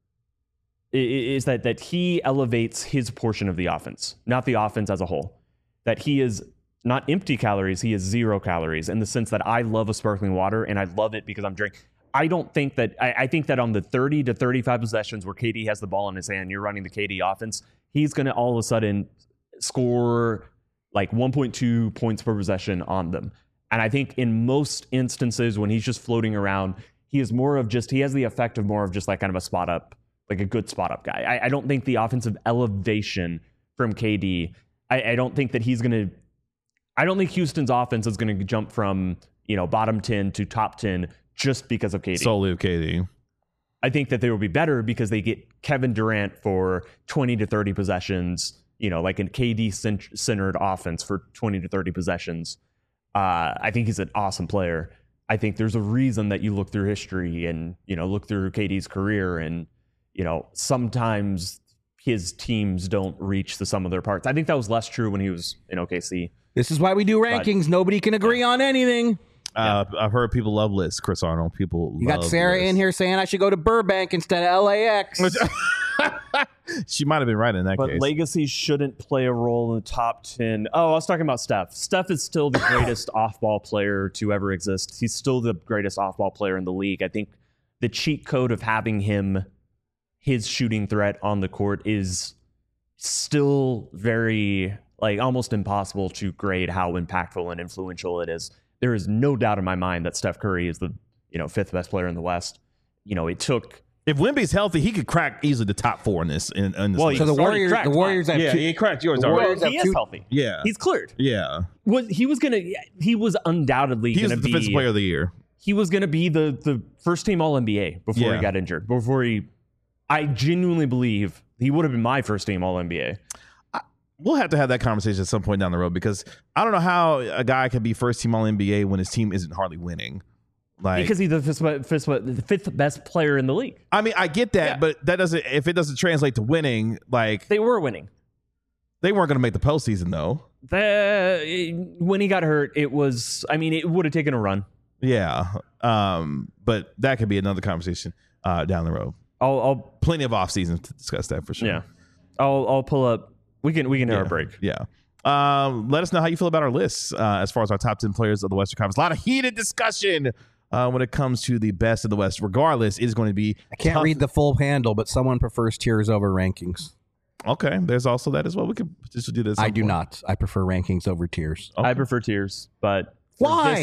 B: that he elevates his portion of the offense, not the offense as a whole. That he is not empty calories, he is 0 calories, in the sense that I love a sparkling water and I love it because I'm drinking. I think that on the 30 to 35 possessions where KD has the ball in his hand, you're running the KD offense, he's going to all of a sudden score like 1.2 points per possession on them. And I think in most instances when he's just floating around, he has the effect of more of just like kind of a spot up, like a good spot up guy. I don't think the offensive elevation from KD, I don't think that I don't think Houston's offense is going to jump from, bottom 10 to top 10 just because of KD.
A: Solely of KD.
B: I think that they will be better because they get Kevin Durant for 20 to 30 possessions, like a KD-centered offense for 20 to 30 possessions. I think he's an awesome player. I think there's a reason that you look through history and, look through KD's career and, sometimes his teams don't reach the sum of their parts. I think that was less true when he was in OKC.
C: This is why we do rankings. Nobody can agree on anything.
A: I've heard people love lists. Chris Arnold. People.
C: You got
A: love
C: Sarah
A: lists.
C: in here saying I should go to Burbank instead of LAX.
A: She might have been right in that
B: But
A: case.
B: legacy shouldn't play a role in the top 10. Oh, I was talking about Steph. Steph is still the greatest off-ball player to ever exist. He's still the greatest off-ball player in the league. I think the cheat code of having his shooting threat on the court is still very, almost impossible to grade how impactful and influential it is. There is no doubt in my mind that Steph Curry is the, fifth best player in the West. It took...
A: If Wemby's healthy, he could crack easily the top 4 in this. In this
B: Well,
A: list.
C: So the
B: He's already
C: Warriors,
B: cracked
C: the Warriors have two.
A: he cracked yours
C: The
A: already.
C: Warriors
B: Well, he
C: have
B: is
C: two-
B: healthy.
A: Yeah,
B: He's cleared.
A: yeah.
B: He was undoubtedly
A: He was
B: going
A: the
B: to
A: defensive
B: be...
A: player of the year.
B: He was going to be the first team All-NBA before
A: Yeah.
B: he got injured. I genuinely believe he would have been my first team All-NBA.
A: We'll have to have that conversation at some point down the road because I don't know how a guy can be first team All NBA when his team isn't hardly winning.
B: Because he's the fifth best player in the league.
A: I mean, I get that,
B: Yeah.
A: but that doesn't. If it doesn't translate to winning,
B: They were winning.
A: they weren't going to make the postseason though.
B: When he got hurt, it would have taken a run.
A: Yeah, but that could be another conversation down the road.
B: I'll
A: Plenty of off season to discuss that for sure.
B: yeah. I'll pull up. We can hit our break.
A: Yeah. Let us know how you feel about our lists as far as our top 10 players of the Western Conference. A lot of heated discussion when it comes to the best of the West. Regardless, it is going to be
C: I can't
A: tough.
C: read the full handle, but someone prefers tiers over rankings.
A: Okay, there's also that as well. We could potentially do this.
C: I do not. I prefer rankings over tiers.
A: Okay.
B: I prefer tiers, but for
C: Why?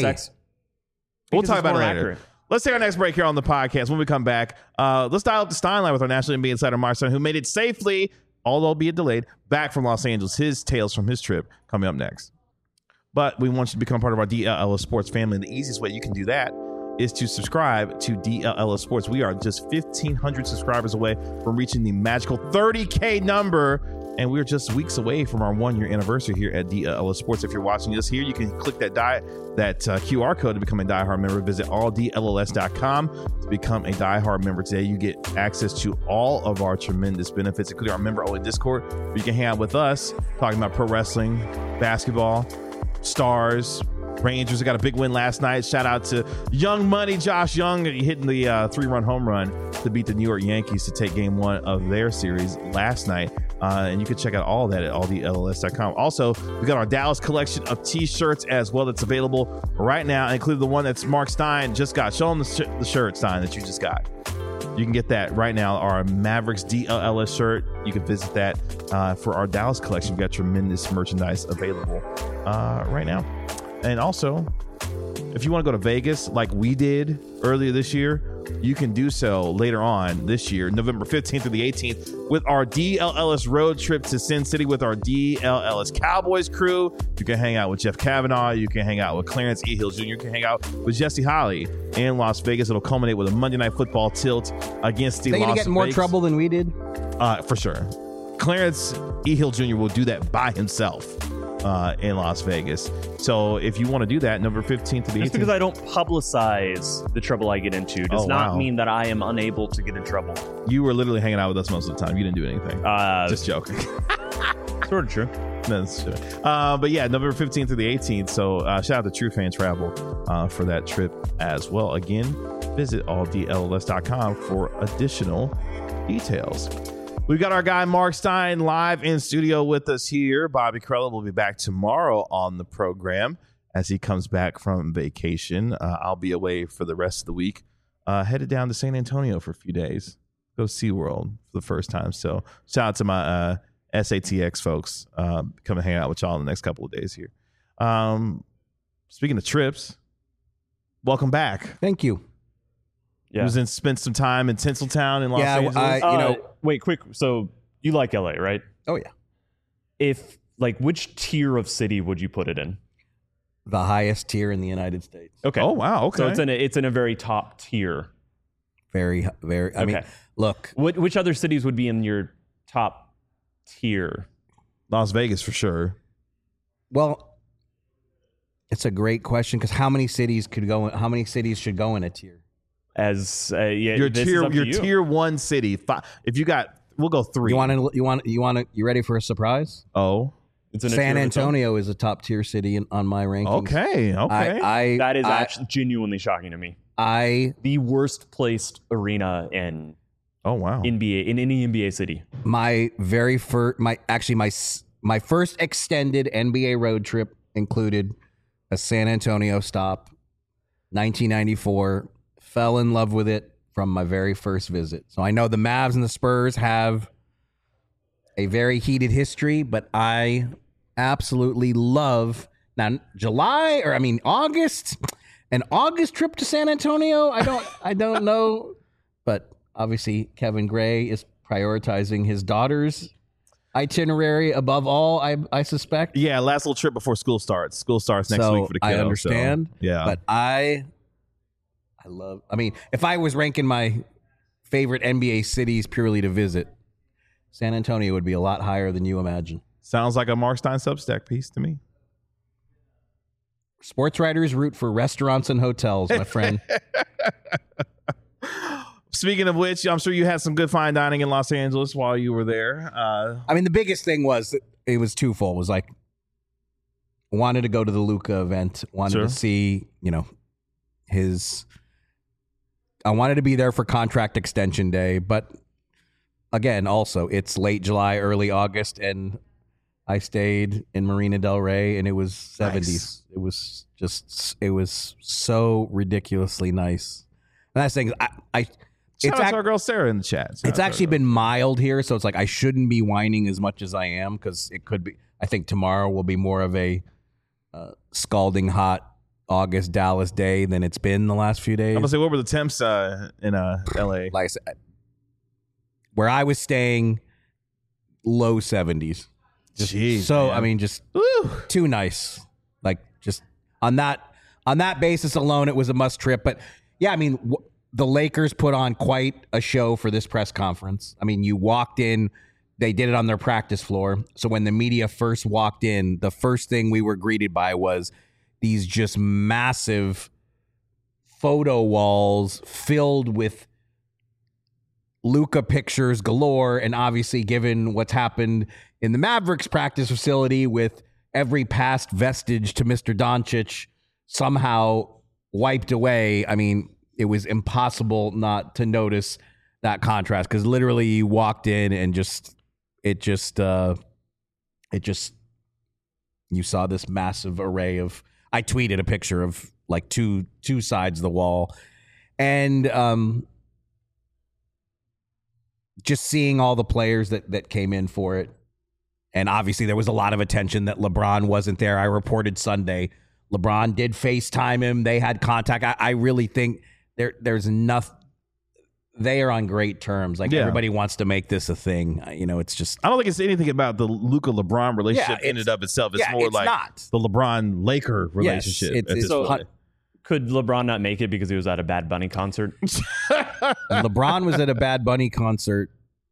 A: We'll
B: because
A: talk
B: it's
A: about it
B: more
A: later.
B: accurate.
A: Let's take our next break here on the podcast. When we come back, let's dial up the Steinline with our National NBA insider, Mark Stein, who made it safely, although albeit delayed, back from Los Angeles. His tales from his trip coming up next. But we want you to become part of our DLLS Sports family. And the easiest way you can do that is to subscribe to DLLS Sports. We are just 1,500 subscribers away from reaching the magical 30K number. And we're just weeks away from our 1-year anniversary here at DLLS Sports. If you're watching us here, you can click that QR code to become a diehard member. Visit alldlls.com to become a diehard member today. You get access to all of our tremendous benefits, including our member-only Discord, where you can hang out with us, talking about pro wrestling, basketball, stars, Rangers got a big win last night. Shout out to Young Money, Josh Young, hitting the 3-run home run to beat the New York Yankees to take game 1 of their series last night. And you can check out all that at alldlls.com. Also, we got our Dallas collection of t-shirts as well that's available right now, including the one that's Mark Stein just got. Show them the shirt, Stein, that you just got. You can get that right now, our Mavericks DLLS shirt. You can visit that for our Dallas collection. We've got tremendous merchandise available right now. And also, if you want to go to Vegas like we did earlier this year, you can do so later on this year, November 15th through the 18th, with our DLLS road trip to Sin City with our DLLS Cowboys crew. You can hang out with Jeff Kavanaugh. You can hang out with Clarence E. Hill Jr. You can hang out with Jesse Holly in Las Vegas. It'll culminate with a Monday Night Football tilt against the
C: They
A: Las
C: gonna get in more
A: Vegas.
C: trouble than we did.
A: For sure. Clarence E. Hill Jr. will do that by himself in Las Vegas. So if you want to do that, November 15th to the 18th.
B: Just because I don't publicize the trouble I get into does not
A: wow.
B: mean that I am unable to get in trouble.
A: You were literally hanging out with us most of the time. You didn't do anything. Just joking.
B: Sort of true.
A: No, that's true. But yeah, November 15th through the 18th. So shout out to True Fan Travel for that trip as well. Again, visit alldlls.com for additional details. We've got our guy Mark Stein live in studio with us here. Bobby Krella will be back tomorrow on the program as he comes back from vacation. I'll be away for the rest of the week. Headed down to San Antonio for a few days. Go SeaWorld for the first time. So shout out to my SATX folks. Come and hang out with y'all in the next couple of days here. Speaking of trips, welcome back.
C: Thank you.
B: Yeah.
A: Spent some time in Tinseltown in Los
C: Yeah,
A: Angeles.
B: Wait, quick. So you like LA, right?
C: Oh yeah.
B: If which tier of city would you put it in?
C: The highest tier in the United States.
B: Okay.
A: Oh wow. Okay.
B: So it's in a very top tier.
C: Very. I mean,
B: Okay.
C: look.
B: Which other cities would be in your top tier?
A: Las Vegas for sure.
C: Well, it's a great question because how many cities should go in a tier?
B: As
A: Your
B: this is
A: tier,
B: up to
A: your
B: you.
A: tier 1 city. If you got, we'll go 3.
C: You ready for a surprise?
A: Oh,
B: It's in a
C: San
B: tier of its own.
C: Antonio is a top tier city on my rankings.
A: Okay.
B: That is actually genuinely shocking to me. The worst placed arena in
A: Oh wow.
B: NBA in any NBA city.
C: My very first, my first extended NBA road trip included a San Antonio stop, 1994. Fell in love with it from my very first visit. So I know the Mavs and the Spurs have a very heated history, but I absolutely love August. An August trip to San Antonio. I don't know, but obviously Kevin Gray is prioritizing his daughter's itinerary above all. I suspect.
A: Yeah, last little trip before school starts. School starts next week for the kiddo.
C: I understand.
A: So, yeah,
C: but I love. I mean, if I was ranking my favorite NBA cities purely to visit, San Antonio would be a lot higher than you imagine.
A: Sounds like a Mark Stein Substack piece to me.
C: Sports writers root for restaurants and hotels, my friend.
A: Speaking of which, I'm sure you had some good fine dining in Los Angeles while you were there.
C: I mean, the biggest thing was it was twofold. It was like, wanted to go to the Luka event, wanted
A: Sure.
C: to see, I wanted to be there for contract extension day, but again, also it's late July, early August, and I stayed in Marina Del Rey, and it was 70s.
A: Nice.
C: It was so ridiculously nice. And that's the thing.
A: Shout out to our girl Sarah in the chat.
C: It's actually been mild here, so it's like I shouldn't be whining as much as I am because it could be. I think tomorrow will be more of a scalding hot August Dallas day than it's been the last few days.
A: I'm gonna say, what were the temps in LA?
C: Like I said, where I was staying, low 70s.
A: Jeez,
C: So
A: man.
C: I mean, just
A: Woo.
C: too nice. Like just on that basis alone, it was a must trip. But yeah, I mean, the Lakers put on quite a show for this press conference. I mean, you walked in, they did it on their practice floor. So when the media first walked in, the first thing we were greeted by was these just massive photo walls filled with Luka pictures galore. And obviously, given what's happened in the Mavericks practice facility with every past vestige to Mr. Doncic somehow wiped away, I mean, it was impossible not to notice that contrast because literally you walked in and you saw this massive array of. I tweeted a picture of like two sides of the wall, and just seeing all the players that came in for it, and obviously there was a lot of attention that LeBron wasn't there. I reported Sunday, LeBron did FaceTime him. They had contact. I really think there's enough. They are on great terms. Like everybody wants to make this a thing. It's just.
A: I don't think it's anything about the Luka LeBron relationship in and of itself. It's more like the LeBron Laker relationship.
C: Yes, it's
B: So could LeBron not make it because he was at a Bad Bunny concert?
C: LeBron was at a Bad Bunny concert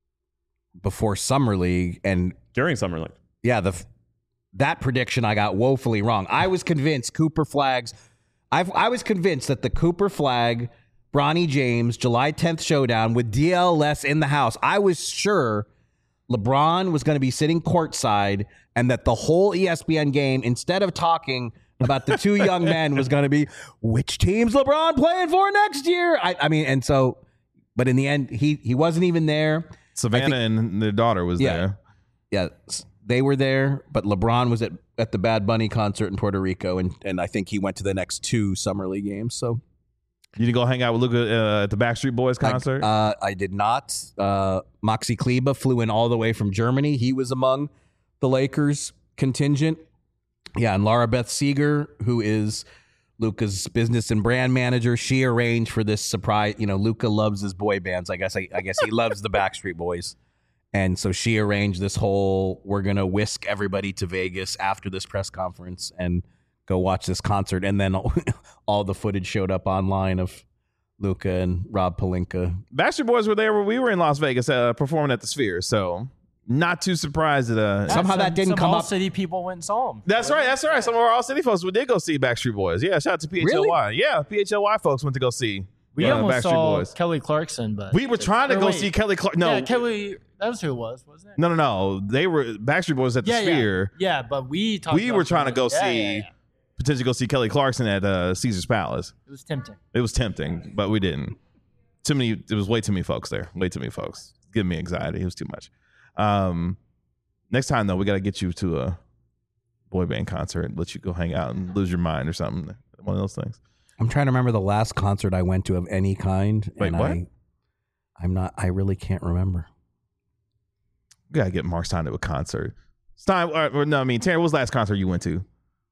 C: before Summer League, and
B: During Summer League.
C: yeah, that prediction I got woefully wrong. I was convinced Cooper Flags. I was convinced that the Cooper Flag, Bronny James, July 10th showdown with DLS in the house. I was sure LeBron was going to be sitting courtside, and that the whole ESPN game, instead of talking about the two young men, was going to be which team's LeBron playing for next year. I mean, and so, but in the end, he wasn't even there.
A: Savannah and their daughter was there.
C: Yeah, they were there, but LeBron was at the Bad Bunny concert in Puerto Rico, and I think he went to the next two Summer League games. So
A: You didn't go hang out with Luka at the Backstreet Boys concert?
C: I did not. Moxie Kleba flew in all the way from Germany. He was among the Lakers contingent. Yeah, and Laura Beth Seeger, who is Luka's business and brand manager, she arranged for this surprise. Luka loves his boy bands. I guess he loves the Backstreet Boys. And so she arranged this whole, we're going to whisk everybody to Vegas after this press conference and go watch this concert. And then all the footage showed up online of Luka and Rob Pelinka.
A: Backstreet Boys were there when we were in Las Vegas performing at the Sphere. So not too surprised that
C: Somehow that didn't come up.
D: City people went and saw them.
A: That's right. Some of our All City folks did go see Backstreet Boys. Yeah, shout out to PHLY.
C: Really?
A: Yeah, PHLY folks went to go see
D: We almost
A: Backstreet
D: saw
A: Boys.
D: Kelly Clarkson, but
A: We were trying to go see Kelly Clarkson. No,
D: yeah, Kelly That was who it was, wasn't it?
A: No. They were Backstreet Boys at the Sphere.
D: Yeah, but we
A: We were trying to go see potentially go see Kelly Clarkson at Caesar's Palace.
D: It was tempting.
A: It was tempting, but we didn't. It was way too many folks there. Way too many folks. Giving me anxiety. It was too much. Next time though, we got to get you to a boy band concert and let you go hang out and lose your mind or something. One of those things.
C: I'm trying to remember the last concert I went to of any kind.
A: Wait,
C: and
A: what?
C: I really can't remember.
A: We got to get Mark Stein to a concert. Stein, Terry, what was the last concert you went to?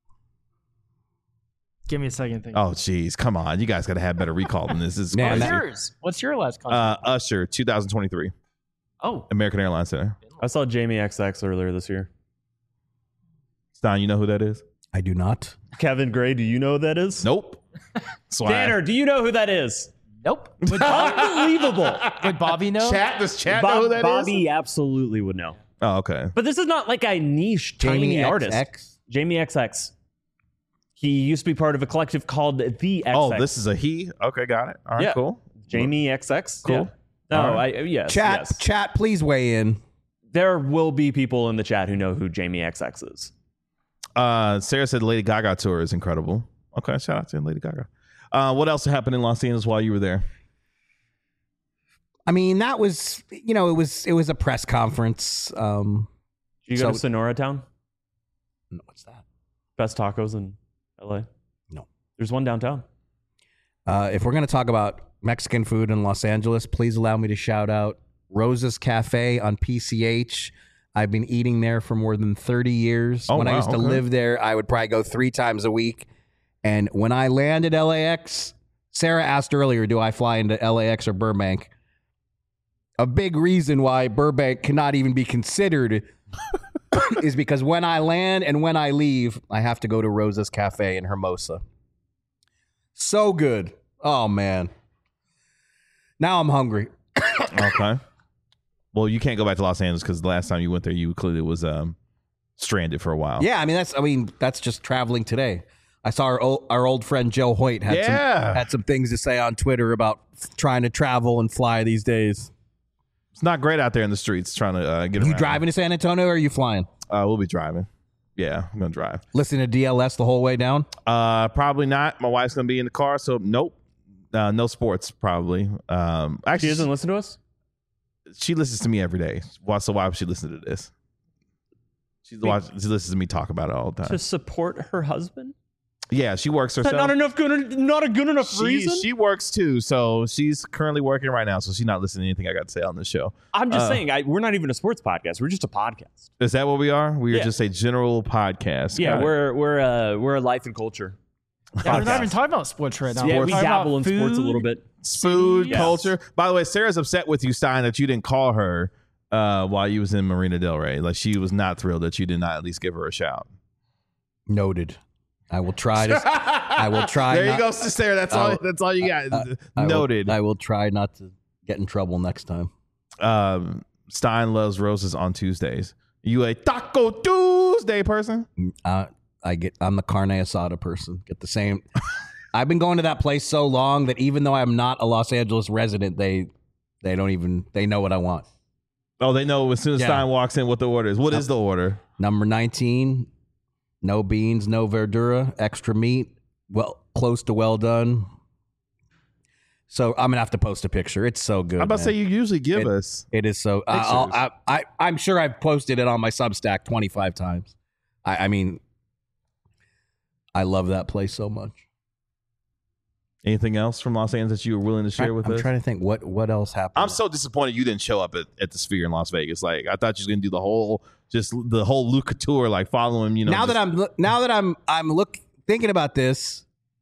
D: Give me a second. Think.
A: Oh, geez. Come on. You guys got to have better recall than this. This is
C: Man,
A: crazy.
D: What's yours? What's your last concert?
A: Usher, 2023.
D: Oh,
A: American Airlines Center.
B: I saw Jamie XX earlier this year.
A: Stein, you know who that is?
C: I do not.
B: Kevin Gray, do you know who that is?
A: Nope. That's why
B: Tanner, do you know who that is?
D: nope.
B: Unbelievable.
D: Would Bobby know?
A: Does chat know who that is?
B: Bobby absolutely would know.
A: Oh, okay.
B: But this is not like a niche, tiny artist. Jamie XX. He used to be part of a collective called The XX.
A: Oh, this is a he? Okay, got it. All right,
B: Yeah.
A: cool.
B: Jamie XX.
A: Cool.
B: Yeah. No,
A: All right.
B: yes.
C: Chat, please weigh in.
B: There will be people in the chat who know who Jamie XX is.
A: Sarah said Lady Gaga tour is incredible. Okay, shout out to Lady Gaga. What else happened in Los Angeles while you were there?
C: I mean, that was, it was a press conference.
B: Did you go to
C: So-
B: Sonora Town?
C: No, what's that?
B: Best tacos in LA?
C: No.
B: There's one downtown.
C: If we're going to talk about Mexican food in Los Angeles, please allow me to shout out Rosa's Cafe on PCH. I've been eating there for more than 30 years.
A: Oh,
C: when I
A: wow,
C: used to
A: okay.
C: live there, I would probably go 3 times a week. And when I landed LAX, Sarah asked earlier, do I fly into LAX or Burbank? A big reason why Burbank cannot even be considered is because when I land and when I leave, I have to go to Rosa's Cafe in Hermosa. So good. Oh, man. Now I'm hungry.
A: Okay. Well, you can't go back to Los Angeles because the last time you went there, you clearly was stranded for a while.
C: Yeah, I mean that's just traveling today. I saw our old friend Joe Hoyt had some things to say on Twitter about trying to travel and fly these days.
A: It's not great out there in the streets trying to get
C: You
A: around.
C: driving to San Antonio or are you flying?
A: We'll be driving. Yeah, I'm going to drive.
C: Listen to DLS the whole way down?
A: Probably not. My wife's going to be in the car, so nope. No sports, probably. Actually,
B: She doesn't listen to us?
A: she listens to me every day. So why would she listen to this? She listens to me talk about it all the time.
B: To support her husband?
A: Yeah, she works
B: Is that
A: herself.
B: not a good enough reason?
A: She works too, so she's currently working right now, so she's not listening to anything I got to say on this show.
B: I'm just saying, we're not even a sports podcast. We're just a podcast.
A: Is that what we are? We are
B: Yeah.
A: just a general podcast.
B: Yeah,
A: Got it.
B: we're a life and culture.
D: Yeah, we're not even talking about sports right now.
B: Yeah,
D: We're
B: we
D: talking
B: dabble in
D: about
B: sports a
D: food.
B: little bit.
A: Food,
B: Yes.
A: culture. By the way, Sarah's upset with you, Stein, that you didn't call her while you was in Marina Del Rey. Like, she was not thrilled that you did not at least give her a shout.
C: Noted. I will try to. I will try.
A: There you
C: not-
A: go, Sarah. That's all you got. Noted.
C: I will try not to get in trouble next time.
A: Stein loves roses on Tuesdays. You a Taco Tuesday person?
C: I'm the carne asada person. Get the same. I've been going to that place so long that even though I'm not a Los Angeles resident, they know what I want.
A: Oh, they know as soon as
C: Yeah.
A: Stein walks in what the order is. What is the order?
C: Number 19, no beans, no verdura, extra meat, well, close to well done. So I'm gonna have to post a picture. It's so good.
A: I'm about to say
C: man.
A: you usually give us.
C: It is so.
A: Pictures.
C: I'm sure I've posted it on my Substack 25 times. I mean, I love that place so much.
A: Anything else from Los Angeles that you were willing to share with
C: I'm
A: us?
C: trying to think what else happened.
A: I'm so disappointed you didn't show up at the Sphere in Las Vegas. Like, I thought you was gonna do the whole Luca tour, like following.
C: now that I'm thinking about this,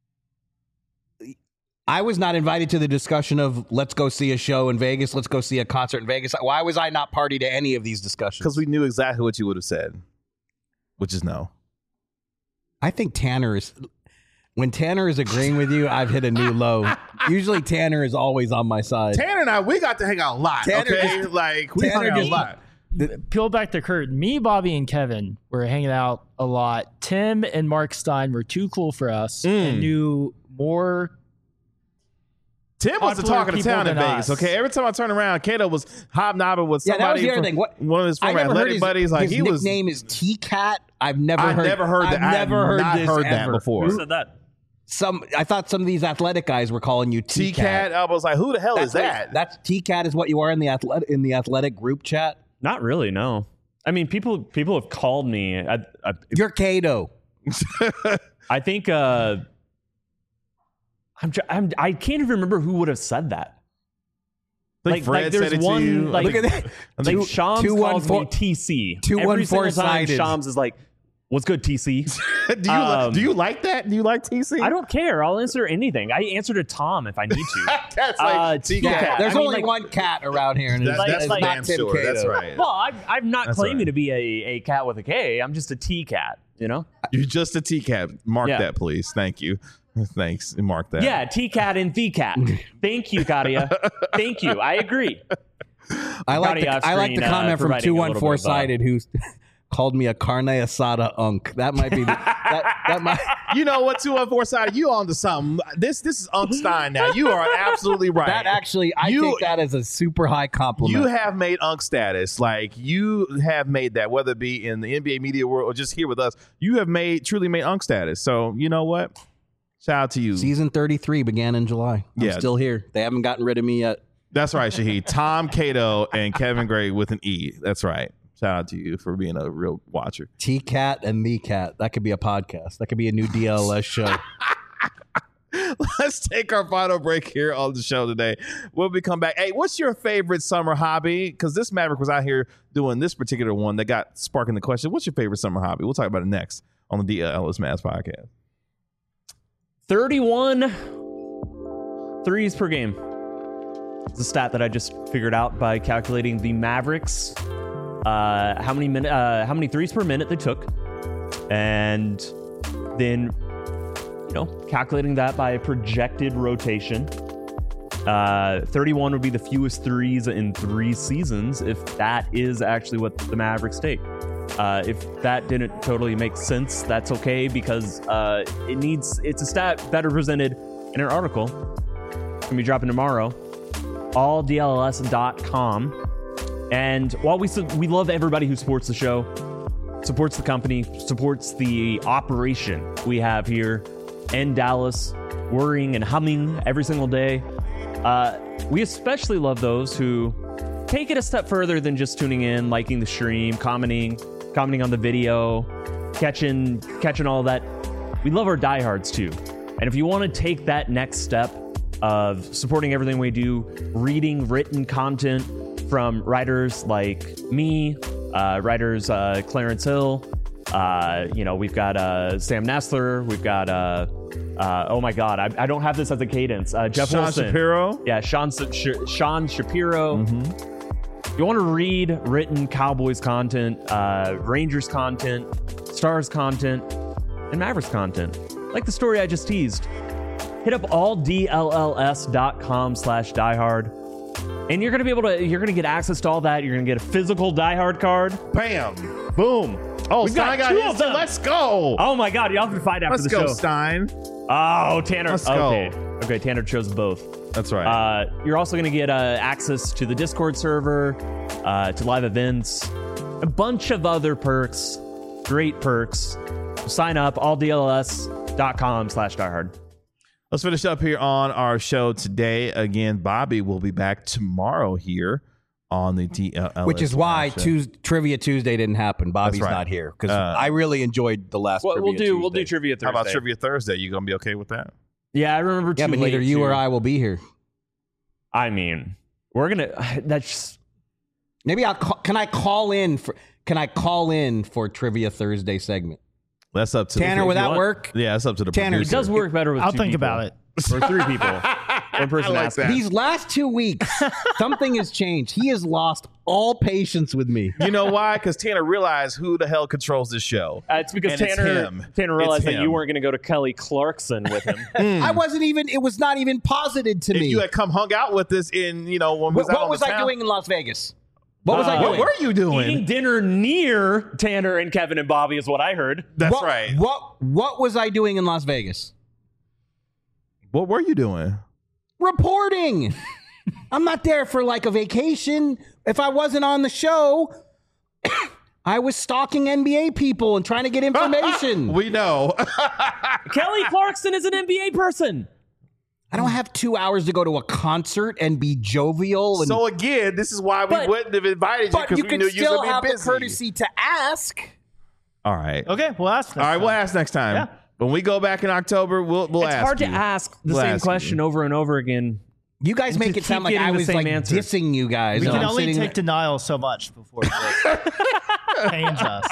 C: I was not invited to the discussion of let's go see a show in Vegas, let's go see a concert in Vegas. Why was I not party to any of these discussions?
A: because we knew exactly what you would have said, which is no.
C: I think when Tanner is agreeing with you, I've hit a new low. Usually Tanner is always on my side.
A: Tanner and I, we got to hang out a lot.
C: Tanner
A: okay,
C: just-
A: like we
C: Tanner
A: hung out a
C: just-
A: lot.
D: Peel back the curtain. Me, Bobby, and Kevin were hanging out a lot. Tim and Mark Stein were too cool for us and knew more
A: Tim was the
D: popular
A: talk of the
D: people
A: town in
D: than
A: Vegas.
D: us.
A: Okay, every time I turn around, Kato was hobnobbing with
C: Yeah, that was
A: somebody.
C: the other
A: from
C: thing. What-
A: one of his
C: I
A: former
C: never heard
A: athletic buddies. Like
C: his
A: he was.
C: nickname is T-Cat. I've never
A: I
C: heard.
A: never heard that.
C: I've never heard
A: not
C: this
A: heard that
C: ever.
A: before.
B: Who said that?
C: I thought some of these athletic guys were calling you
A: T-Cat. I was like, who the hell is that?
C: That's T-Cat is what you are in the athletic group chat.
B: Not really. No. I mean, people have called me.
C: You're Cato.
B: I think I can't even remember who would have said that.
A: I think Fred
B: there's
A: said it
B: one,
A: to you.
B: like-
C: Look at that.
B: Like Shams calls me TC. Every single time
C: 214-sided.
B: Shams is like, "What's good, TC?"
A: do you like that? Do you like TC?
B: I don't care. I'll answer anything. I answer to Tom if I need to.
A: That's like
B: T-Cat.
A: T-Cat.
C: There's
B: I mean,
C: only
B: like-
C: one cat around here, and
A: That's,
B: Like-
A: that's
B: like-
A: damn
C: not Tim
A: sure.
C: Cato.
A: That's right.
B: Well, I'm not
A: That's
B: claiming
A: right.
B: to be a cat with a K. I'm just a T cat. You know?
A: You're just a T-Cat. Mark
B: Yeah.
A: that, please. Thank you. Thanks. Mark that.
B: Yeah, T cat and the cat. Thank you, Katia. Thank you. I agree.
C: I like
B: Gotti
C: the
B: off-screen,
C: comment from
B: providing a little bit of,
C: 214-sided who called me a carne asada unk. That might be that might.
A: You know what, 214-sided, you on to something. This is Unc Stein now. You are absolutely right.
C: That actually, I take that as a super high compliment.
A: You have made Unc status. Like, you have made that, whether it be in the NBA media world or just here with us. You have truly made Unc status. So, you know what? Shout out to you.
C: Season 33 began in July. I'm
A: Yeah.
C: still here. They haven't gotten rid of me yet.
A: That's right, Shahid. Tom Cato and Kevin Gray with an E. That's right. Shout out to you for being a real watcher.
C: T-Cat and the Cat. That could be a podcast. That could be a new DLS show.
A: Let's take our final break here on the show today. When we come back, hey, what's your favorite summer hobby? Because this Maverick was out here doing this particular one that got sparking the question. What's your favorite summer hobby? We'll talk about it next on the DLS Mavs podcast.
B: 31 threes per game. It's a stat that I just figured out by calculating the Mavericks, how many threes per minute they took, and then calculating that by a projected rotation. 31 would be the fewest threes in 3 seasons if that is actually what the Mavericks take. If that didn't totally make sense, that's okay, because it's a stat better presented in an article. It's gonna be dropping tomorrow. alldls.com. And while we love everybody who supports the show, supports the company, supports the operation we have here in Dallas, whirring and humming every single day, we especially love those who take it a step further than just tuning in, liking the stream, commenting on the video, catching all that. We love our diehards too. And if you want to take that next step of supporting everything we do, reading written content from writers like me, writers Clarence Hill, we've got Sam Nestler, we've got oh my god, I don't have this as a cadence. Jeff
A: Sean
B: Wilson.
A: Shapiro.
B: Yeah, Sean Shapiro. You want to read written Cowboys content, Rangers content, Stars content, and Mavericks content, like the story I just teased. Hit up alldlls.com/diehard, and you're gonna get access to all that. You're gonna get a physical diehard card.
A: Bam.
B: Boom.
A: Oh,
B: We've
A: Stein got
B: two
A: his
B: of them.
A: Let's go.
B: Oh my god, y'all can fight after
A: Let's
B: the
A: go,
B: show.
A: Stein.
B: Oh, Tanner.
A: Let's go.
B: Okay, Tanner chose both.
A: That's right.
B: You're also going to get access to the Discord server, to live events, a bunch of other perks, great perks. Sign up, alldls.com/diehard.
A: Let's finish up here on our show today. Again, Bobby will be back tomorrow here on the DLS.
C: Which is why Trivia Tuesday didn't happen. Bobby's
A: That's right.
C: not here because I really enjoyed the last.
B: We'll
C: Trivia
B: do
C: Tuesday.
B: Trivia Thursday.
A: How about Trivia Thursday? You gonna be okay with that?
B: Yeah, I remember.
C: Yeah, but neither you or I will be here.
B: I mean, we're gonna. That's
C: Maybe Can I call in for Trivia Thursday segment?
A: That's up to
C: Tanner.
A: the,
C: Would that
B: want.
C: work?
A: Yeah, that's up to the
C: Tanner,
B: it
A: producer.
B: does work better with
D: I'll
B: two
D: think
B: people.
D: about it.
B: Or 3 people. One person
A: I like
B: asking.
A: that.
C: These last 2 weeks, something has changed. He has lost all patience with me.
A: You know why? Because Tanner realized who the hell controls this show.
B: It's because
A: And it's
B: Tanner
A: him.
B: realized
A: It's
B: that you
A: him.
B: weren't going to go to Kelly Clarkson with him.
C: I wasn't even. It was not even posited to
A: If
C: me.
A: you had come hung out with us in, when we was
C: What
A: out on
C: was
A: the
C: I
A: town,
C: doing in Las Vegas? What was I
A: What
C: doing?
A: were you doing?
B: Eating dinner near Tanner and Kevin and Bobby is what I heard.
A: That's
C: what,
A: right.
C: What was I doing in Las Vegas?
A: What were you doing?
C: reporting. I'm not there for like a vacation. If I wasn't on the show, I was stalking NBA people and trying to get information.
A: We know.
B: Kelly Clarkson is an NBA person.
C: I don't have 2 hours to go to a concert and be jovial. And,
A: So again, this is why we wouldn't have invited you,
C: but
A: because
C: you
A: we
C: can
A: knew you
C: still
A: were
C: have
A: going to
C: the
A: be busy.
C: courtesy to ask.
A: All right.
D: Okay, we'll ask.
A: All right, we'll ask next time.
D: Yeah.
A: When we go back in October, we'll
B: It's
A: ask
B: hard
A: you.
B: to ask the
A: We'll
B: same
A: ask
B: question
A: you.
B: over and over again.
C: You guys
B: And
C: make
B: to
C: it sound
B: keep
C: like I
B: getting the
C: was
B: same
C: like
B: answer.
C: dissing you guys.
D: We
C: and
D: can
C: I'm
D: only
C: sitting
D: take denial so much before it pains us.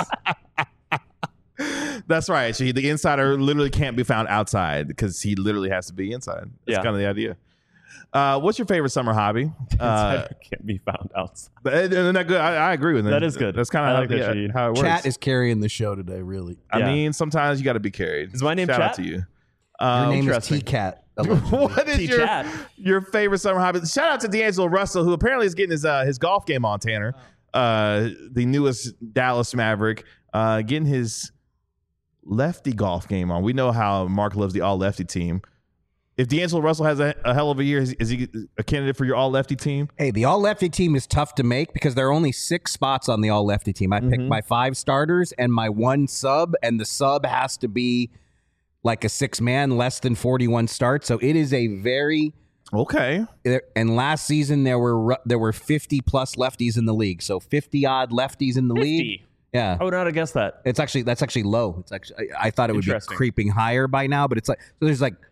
A: That's right. Actually, the insider literally can't be found outside because he literally has to be inside. That's
B: Yeah.
A: kind of the idea. What's your favorite summer hobby?
B: Can't be found outside.
A: Isn't that good? I agree with that.
B: That is good.
A: That's kind
B: I
A: of
B: like that, Shahid.
A: how it works.
C: Chat is carrying the show today, really.
A: I
B: Yeah.
A: mean, sometimes you got to be carried.
B: Is my name
A: Shout out
B: Chat?
A: to you.
C: Your name is
A: Interesting.
C: T-Cat.
A: What is
B: T-Chat.
A: your favorite summer hobby? Shout out to D'Angelo Russell, who apparently is getting his golf game on, Tanner. The newest Dallas Maverick, getting his lefty golf game on. We know how Mark loves the all lefty team. If D'Angelo Russell has a hell of a year, is he a candidate for your all lefty team?
C: Hey, the all-lefty team is tough to make because there are only 6 spots on the all-lefty team. I picked my 5 starters and my 1 sub, and the sub has to be like a 6-man, less than 41 starts. So it is a very
A: Okay.
C: and last season there were 50 plus lefties in the league. So 50 odd lefties in the league.
B: 50.
C: Yeah.
B: I would not have guessed that.
C: That's actually low. It's actually I thought it would be
B: Interesting.
C: creeping higher by now, but it's like so there's like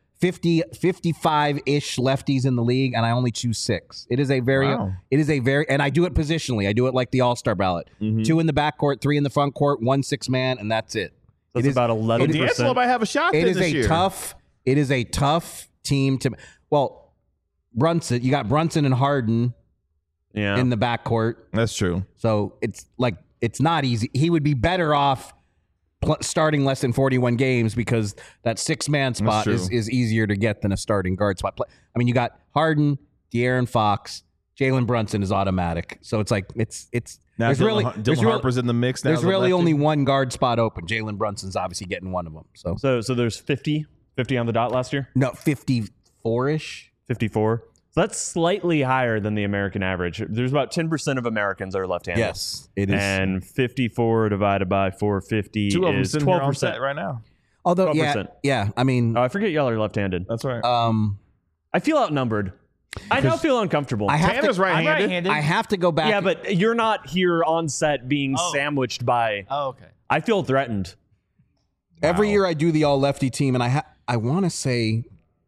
C: 55-ish lefties in the league, and I only choose 6. It is a very and I do it positionally. I do it like the All-Star ballot. 2 in the backcourt, 3 in the front court, 1 6-man, and that's it.
B: That's
C: It is-
B: about
A: D'Angelo
B: 11%.
A: might have a shot
C: It
A: then
C: is
A: this year.
C: it is a tough team to Brunson, you got Brunson and Harden
B: Yeah.
C: in the backcourt.
A: That's true.
C: So it's not easy. He would be better off starting less than 41 games because that 6-man spot
A: true.
C: is easier to get than a starting guard spot. I mean, you got Harden, De'Aaron Fox, Jalen Brunson is automatic. So it's like it's
A: Now
C: there's
A: Dylan Harper's in the mix now.
C: there's
A: as a
C: really
A: lefty.
C: only one guard spot open. Jalen Brunson's obviously getting one of them. So
B: So there's 50 on the dot last year?
C: no, 54-ish.
B: 54. So that's slightly higher than the American average. There's about 10% of Americans are left-handed.
C: Yes, it is.
B: And 54 divided by 450
A: Two of them
B: is
A: sitting here on
B: 12%.
A: set right now.
C: Although
B: 12%.
C: yeah. I mean,
B: Oh, I forget y'all are left-handed.
A: That's right.
B: I feel outnumbered. I now feel uncomfortable.
C: I have
A: Tanner's
C: to,
A: right-handed.
D: I'm right-handed.
C: I have to go back.
B: yeah, but you're not here on set being
D: Oh.
B: sandwiched by.
D: Oh, okay.
B: I feel threatened.
C: Every year I do the all lefty team, and I want to say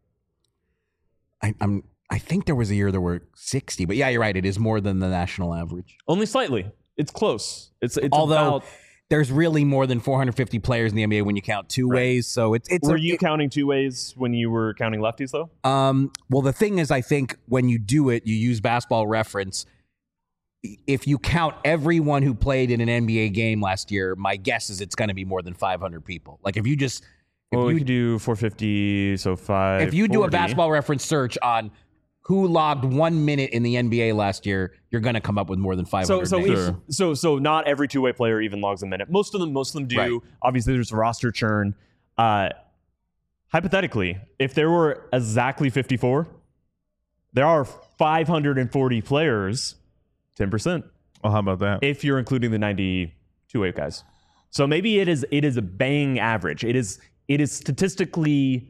C: I think there was a year there were 60, but yeah, you're right. It is more than the national average.
B: Only slightly. It's close. It's
C: Although
B: about.
C: there's really more than 450 players in the NBA when you count two ways. So it's
B: Were you counting 2 ways when you were counting lefties though?
C: well, the thing is, I think when you do it, you use Basketball Reference. If you count everyone who played in an NBA game last year, my guess is it's going to be more than 500 people. Like if you just
B: Well, we could do 450, so 5.
C: if you do a Basketball Reference search on who logged 1 minute in the NBA last year, you're going to come up with more than 500 names.
B: So not every two-way player even logs a minute. Most of them do.
C: Right.
B: Obviously, there's roster churn. Hypothetically, if there were exactly 54, there are 540 players. 10%.
A: Oh, how about that?
B: If you're including the 90 two-way guys. So maybe it is a bang average. It is statistically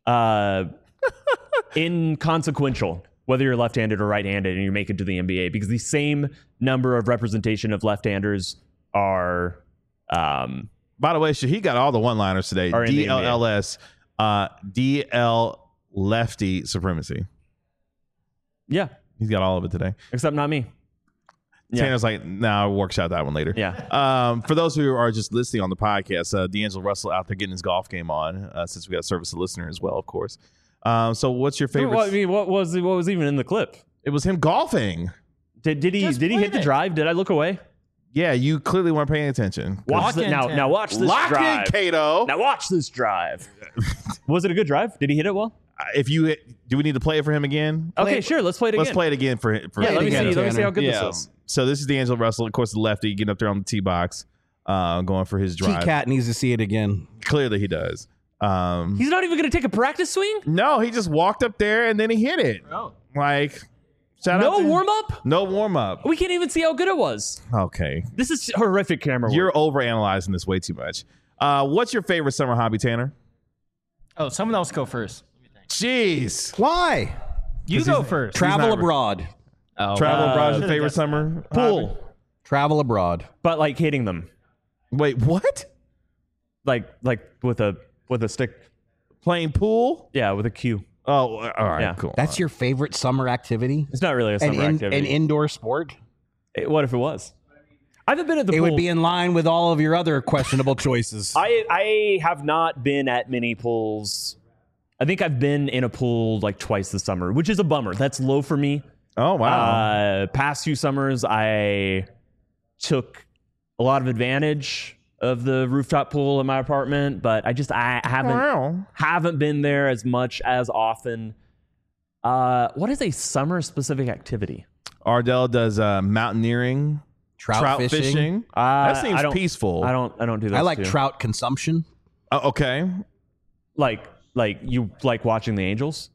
B: inconsequential whether you're left-handed or right-handed and you make it to the NBA because the same number of representation of left-handers are
A: By the way, he got all the one-liners today.
B: Are in the
A: DLLS, DL lefty supremacy.
B: yeah,
A: He's got all of it today.
B: except not me. Yeah.
A: Tanner's like, nah, we'll workshop that one later.
B: Yeah.
A: For those who are just listening on the podcast, D'Angelo Russell out there getting his golf game on, since we got a service to listener as well, of course. So what's your favorite?
B: Well, I mean, what was even in the clip?
A: It was him golfing.
B: Did he
D: Just
B: hit
D: played
B: the
D: it.
B: drive? Did I look away?
A: Yeah, you clearly weren't paying attention.
B: Watch
D: Lock in,
B: now.
D: Tanner.
B: Now watch this
A: Lock
B: drive.
A: in, Cato.
B: Now watch this drive. Was it a good drive? Did he hit it well?
A: If you do, we need to play it for him again?
B: Okay, sure. Let's play it again.
A: Let's play it again for
B: Yeah,
A: him.
B: let me
C: again,
B: see. Let me see how good
A: Yeah.
B: this is.
A: So this is D'Angelo Russell, of course, the lefty, getting up there on the tee box, going for his drive.
C: T-Cat needs to see it again.
A: Clearly he does.
B: He's not even going to take a practice swing?
A: No, he just walked up there and then he hit it.
D: Oh.
A: Like, shout
B: No
A: out to
B: warm up?
A: No warm up.
B: We can't even see how good it was.
A: Okay.
B: This is horrific camera work.
A: You're overanalyzing this way too much. What's your favorite summer hobby, Tanner?
D: Oh, someone else go first.
A: Jeez.
C: Why?
D: You go first.
C: Travel
A: not-
C: abroad.
D: Oh,
A: Travel abroad is your
D: should've
A: favorite
D: guessed
A: summer
B: Pool.
A: hobby?
C: Travel abroad.
B: But like hitting them.
A: Wait, what?
B: Like with a stick.
A: Playing pool?
B: Yeah, with a cue.
A: Oh, all right,
B: Yeah.
A: cool.
C: That's your favorite summer activity?
B: It's not really a summer activity.
C: An indoor sport?
B: What if it was? I haven't been at the
C: It
B: pool.
C: would be in line with all of your other questionable choices.
B: I have not been at many pools. I think I've been in a pool like twice this summer, which is a bummer. That's low for me.
A: Oh, wow.
B: Past few summers, I took a lot of advantage of the rooftop pool in my apartment, but I haven't been there as much as often. What is a summer specific activity?
A: Ardell does mountaineering,
C: Trout fishing.
A: That
B: I
A: seems
B: don't-
A: peaceful.
B: I don't do that.
C: I like trout consumption.
A: Okay.
B: Like you like watching the Angels.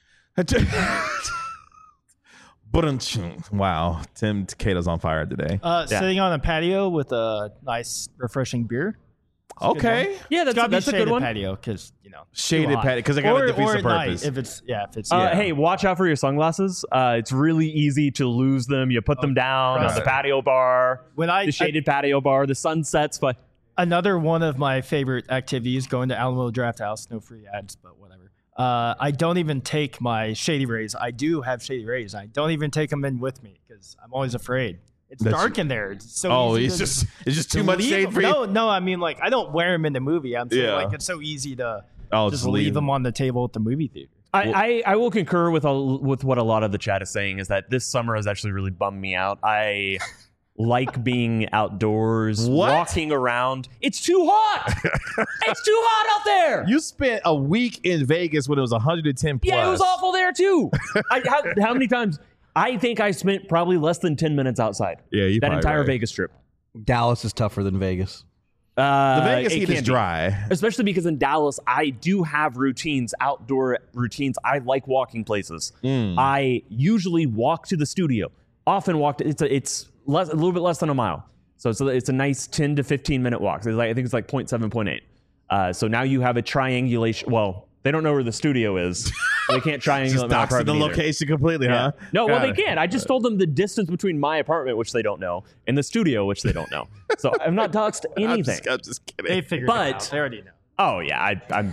A: Wow. Tim Cato's on fire today.
D: Sitting on a patio with a nice, refreshing beer.
A: Okay.
B: Yeah,
D: It's gotta
B: that's
D: be
B: a good
D: shaded
B: one.
D: patio because
A: Shaded patio, because it kind of defeats the
D: at night,
A: purpose.
D: if it's
B: Hey, watch out for your sunglasses. It's really easy to lose them. You put them down
D: trust
B: on the
D: me.
B: patio bar,
D: when
B: the shaded patio bar, the sun sets. But
D: another one of my favorite activities, going to Alamo Draft House. No free ads, but whatever. I don't even take my Shady Rays. I do have Shady Rays. I don't even take them in with me because I'm always afraid. It's dark in there. It's so easy
A: it's just too much
D: leave
A: shade
D: them.
A: for you.
D: No, I mean, like, I don't wear them in the movie. I'm saying,
A: Yeah.
D: like, it's so easy to
A: I'll
D: just leave them on the table at the movie theater.
B: I will concur with what a lot of the chat is saying is that this summer has actually really bummed me out. I like being outdoors,
A: What?
B: walking around. It's too hot. It's too hot out there.
A: You spent a week in Vegas when it was 110 plus.
B: Yeah, it was awful there too. How many times? I think I spent probably less than 10 minutes outside.
A: Yeah, you
B: that
A: probably
B: entire
A: right.
B: Vegas trip.
C: Dallas is tougher than Vegas.
A: The Vegas
B: it
A: heat
B: can
A: is
B: be.
A: dry.
B: Especially because in Dallas, I do have routines, outdoor routines. I like walking places. I usually walk to the studio. Often walk. It's a little bit less than a mile. So it's a nice 10 to 15 minute walk. So I think it's like 0.7, 0.8. So now you have a triangulation. Well, they don't know where the studio is. So they can't triangulate
A: Just
B: my
A: doxing
B: apartment
A: the
B: either.
A: location completely, huh?
B: No, well,
A: Got
B: they
A: it.
B: can't. I just told them the distance between my apartment, which they don't know, and the studio, which they don't know. So I'm not doxed anything.
A: I'm just kidding.
D: They figured
B: But-
D: it out. They already know.
B: Oh yeah,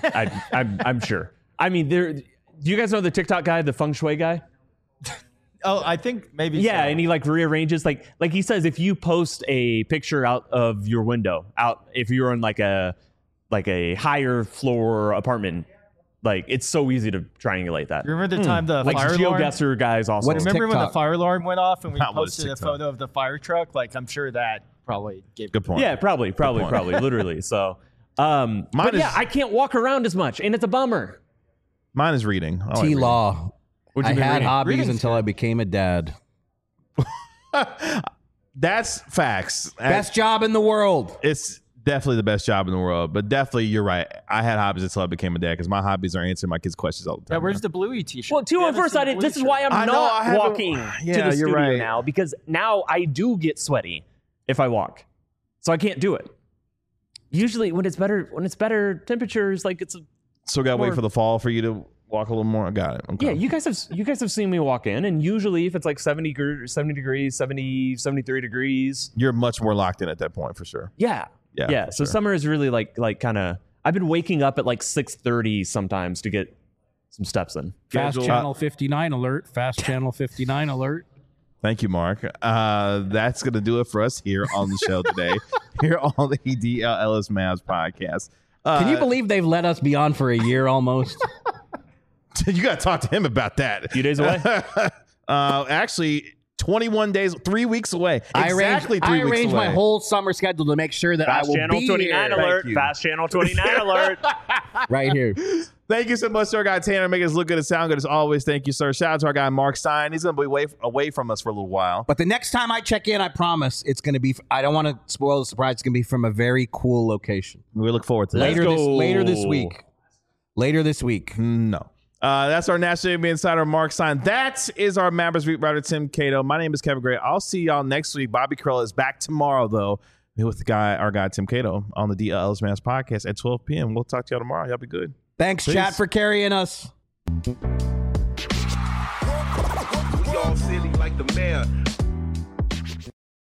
B: I'm sure. I mean, do you guys know the TikTok guy, the feng shui guy?
D: Oh, I think maybe.
B: Yeah,
D: so.
B: and he like rearranges like he says if you post a picture out of your window, if you're in like a higher floor apartment, like it's so easy to triangulate that.
D: Remember the time the
B: Like
D: fire alarm?
B: GeoGuessr guys also.
C: What's
D: Remember when the
C: TikTok?
D: fire alarm went off and we
A: That was
D: posted a
A: TikTok.
D: photo of the fire truck? Like, I'm sure that probably gave
A: Good point.
B: Yeah, probably,
A: point.
B: literally. So, but
A: is-
B: yeah, I can't walk around as much, and it's a bummer.
A: Mine is reading. I like
C: T
A: reading.
C: Law.
B: What'd
C: I
B: you been
C: had
B: reading?
C: hobbies
D: Reading's
C: until
D: good.
C: I became a dad.
A: That's facts.
C: Best job in the world.
A: It's definitely the best job in the world, but definitely you're right. I had hobbies until I became a dad because my hobbies are answering my kids' questions all the time.
D: Yeah, where's the Bluey t-shirt?
B: Well,
D: You
B: on
D: haven't
B: first
D: seen
B: I
D: the
B: didn't.
D: Bluey
B: This is why
D: shirt.
B: I'm
A: I know, I
B: not
A: haven't-
B: walking
A: Yeah,
B: to the
A: you're
B: studio
A: right.
B: now because now I do get sweaty if I walk, so I can't do it. Usually, when it's better temperatures, like it's
A: So we gotta wait
B: more-
A: for the fall for you to walk a little more. I got it. Okay.
B: yeah. You guys have seen me walk in, and usually if it's like 70 degrees, 73 degrees,
A: You're much more locked in at that point for sure.
B: yeah.
A: Yeah, for
B: So
A: sure.
B: summer is really like kind of. I've been waking up at like 6:30 sometimes to get some steps in.
E: Fast
A: Schedule-
E: Channel 59 alert. Fast Channel 59 alert.
A: Thank you, Mark. That's going to do it for us here on the show today, here on the DLLS Mavs podcast.
C: Can you believe they've let us be on for a year almost?
A: You got to talk to him about that.
B: A few days away.
A: Actually, 21 days, 3 weeks away. Exactly
C: I
A: 3 weeks
C: arranged
A: away.
C: my whole summer schedule to make sure that
B: Fast
C: I will
B: Channel
C: be
B: 29
C: here.
B: alert.
A: Thank you.
B: Fast Channel 29 alert.
C: Right here.
A: Thank you so much to our guy Tanner, making us look good and sound good as always. Thank you, sir. Shout out to our guy Mark Stein. He's going to be away from us for a little while.
C: But the next time I check in, I promise it's going to be. I don't want to spoil the surprise. It's going to be from a very cool location
A: We look forward to that.
C: later
B: go.
C: this week. later this week.
A: No. That's our National NBA Insider, Mark Stein. That is our Mavericks beat writer, Tim Cato. My name is Kevin Gray. I'll see y'all next week. Bobby Curl is back tomorrow, though, with our guy, Tim Cato, on the DLS Mass podcast at 12 p.m. We'll talk to y'all tomorrow. Y'all be good.
C: Thanks,
A: Peace.
C: chat, for carrying us.
F: We all silly like the mayor.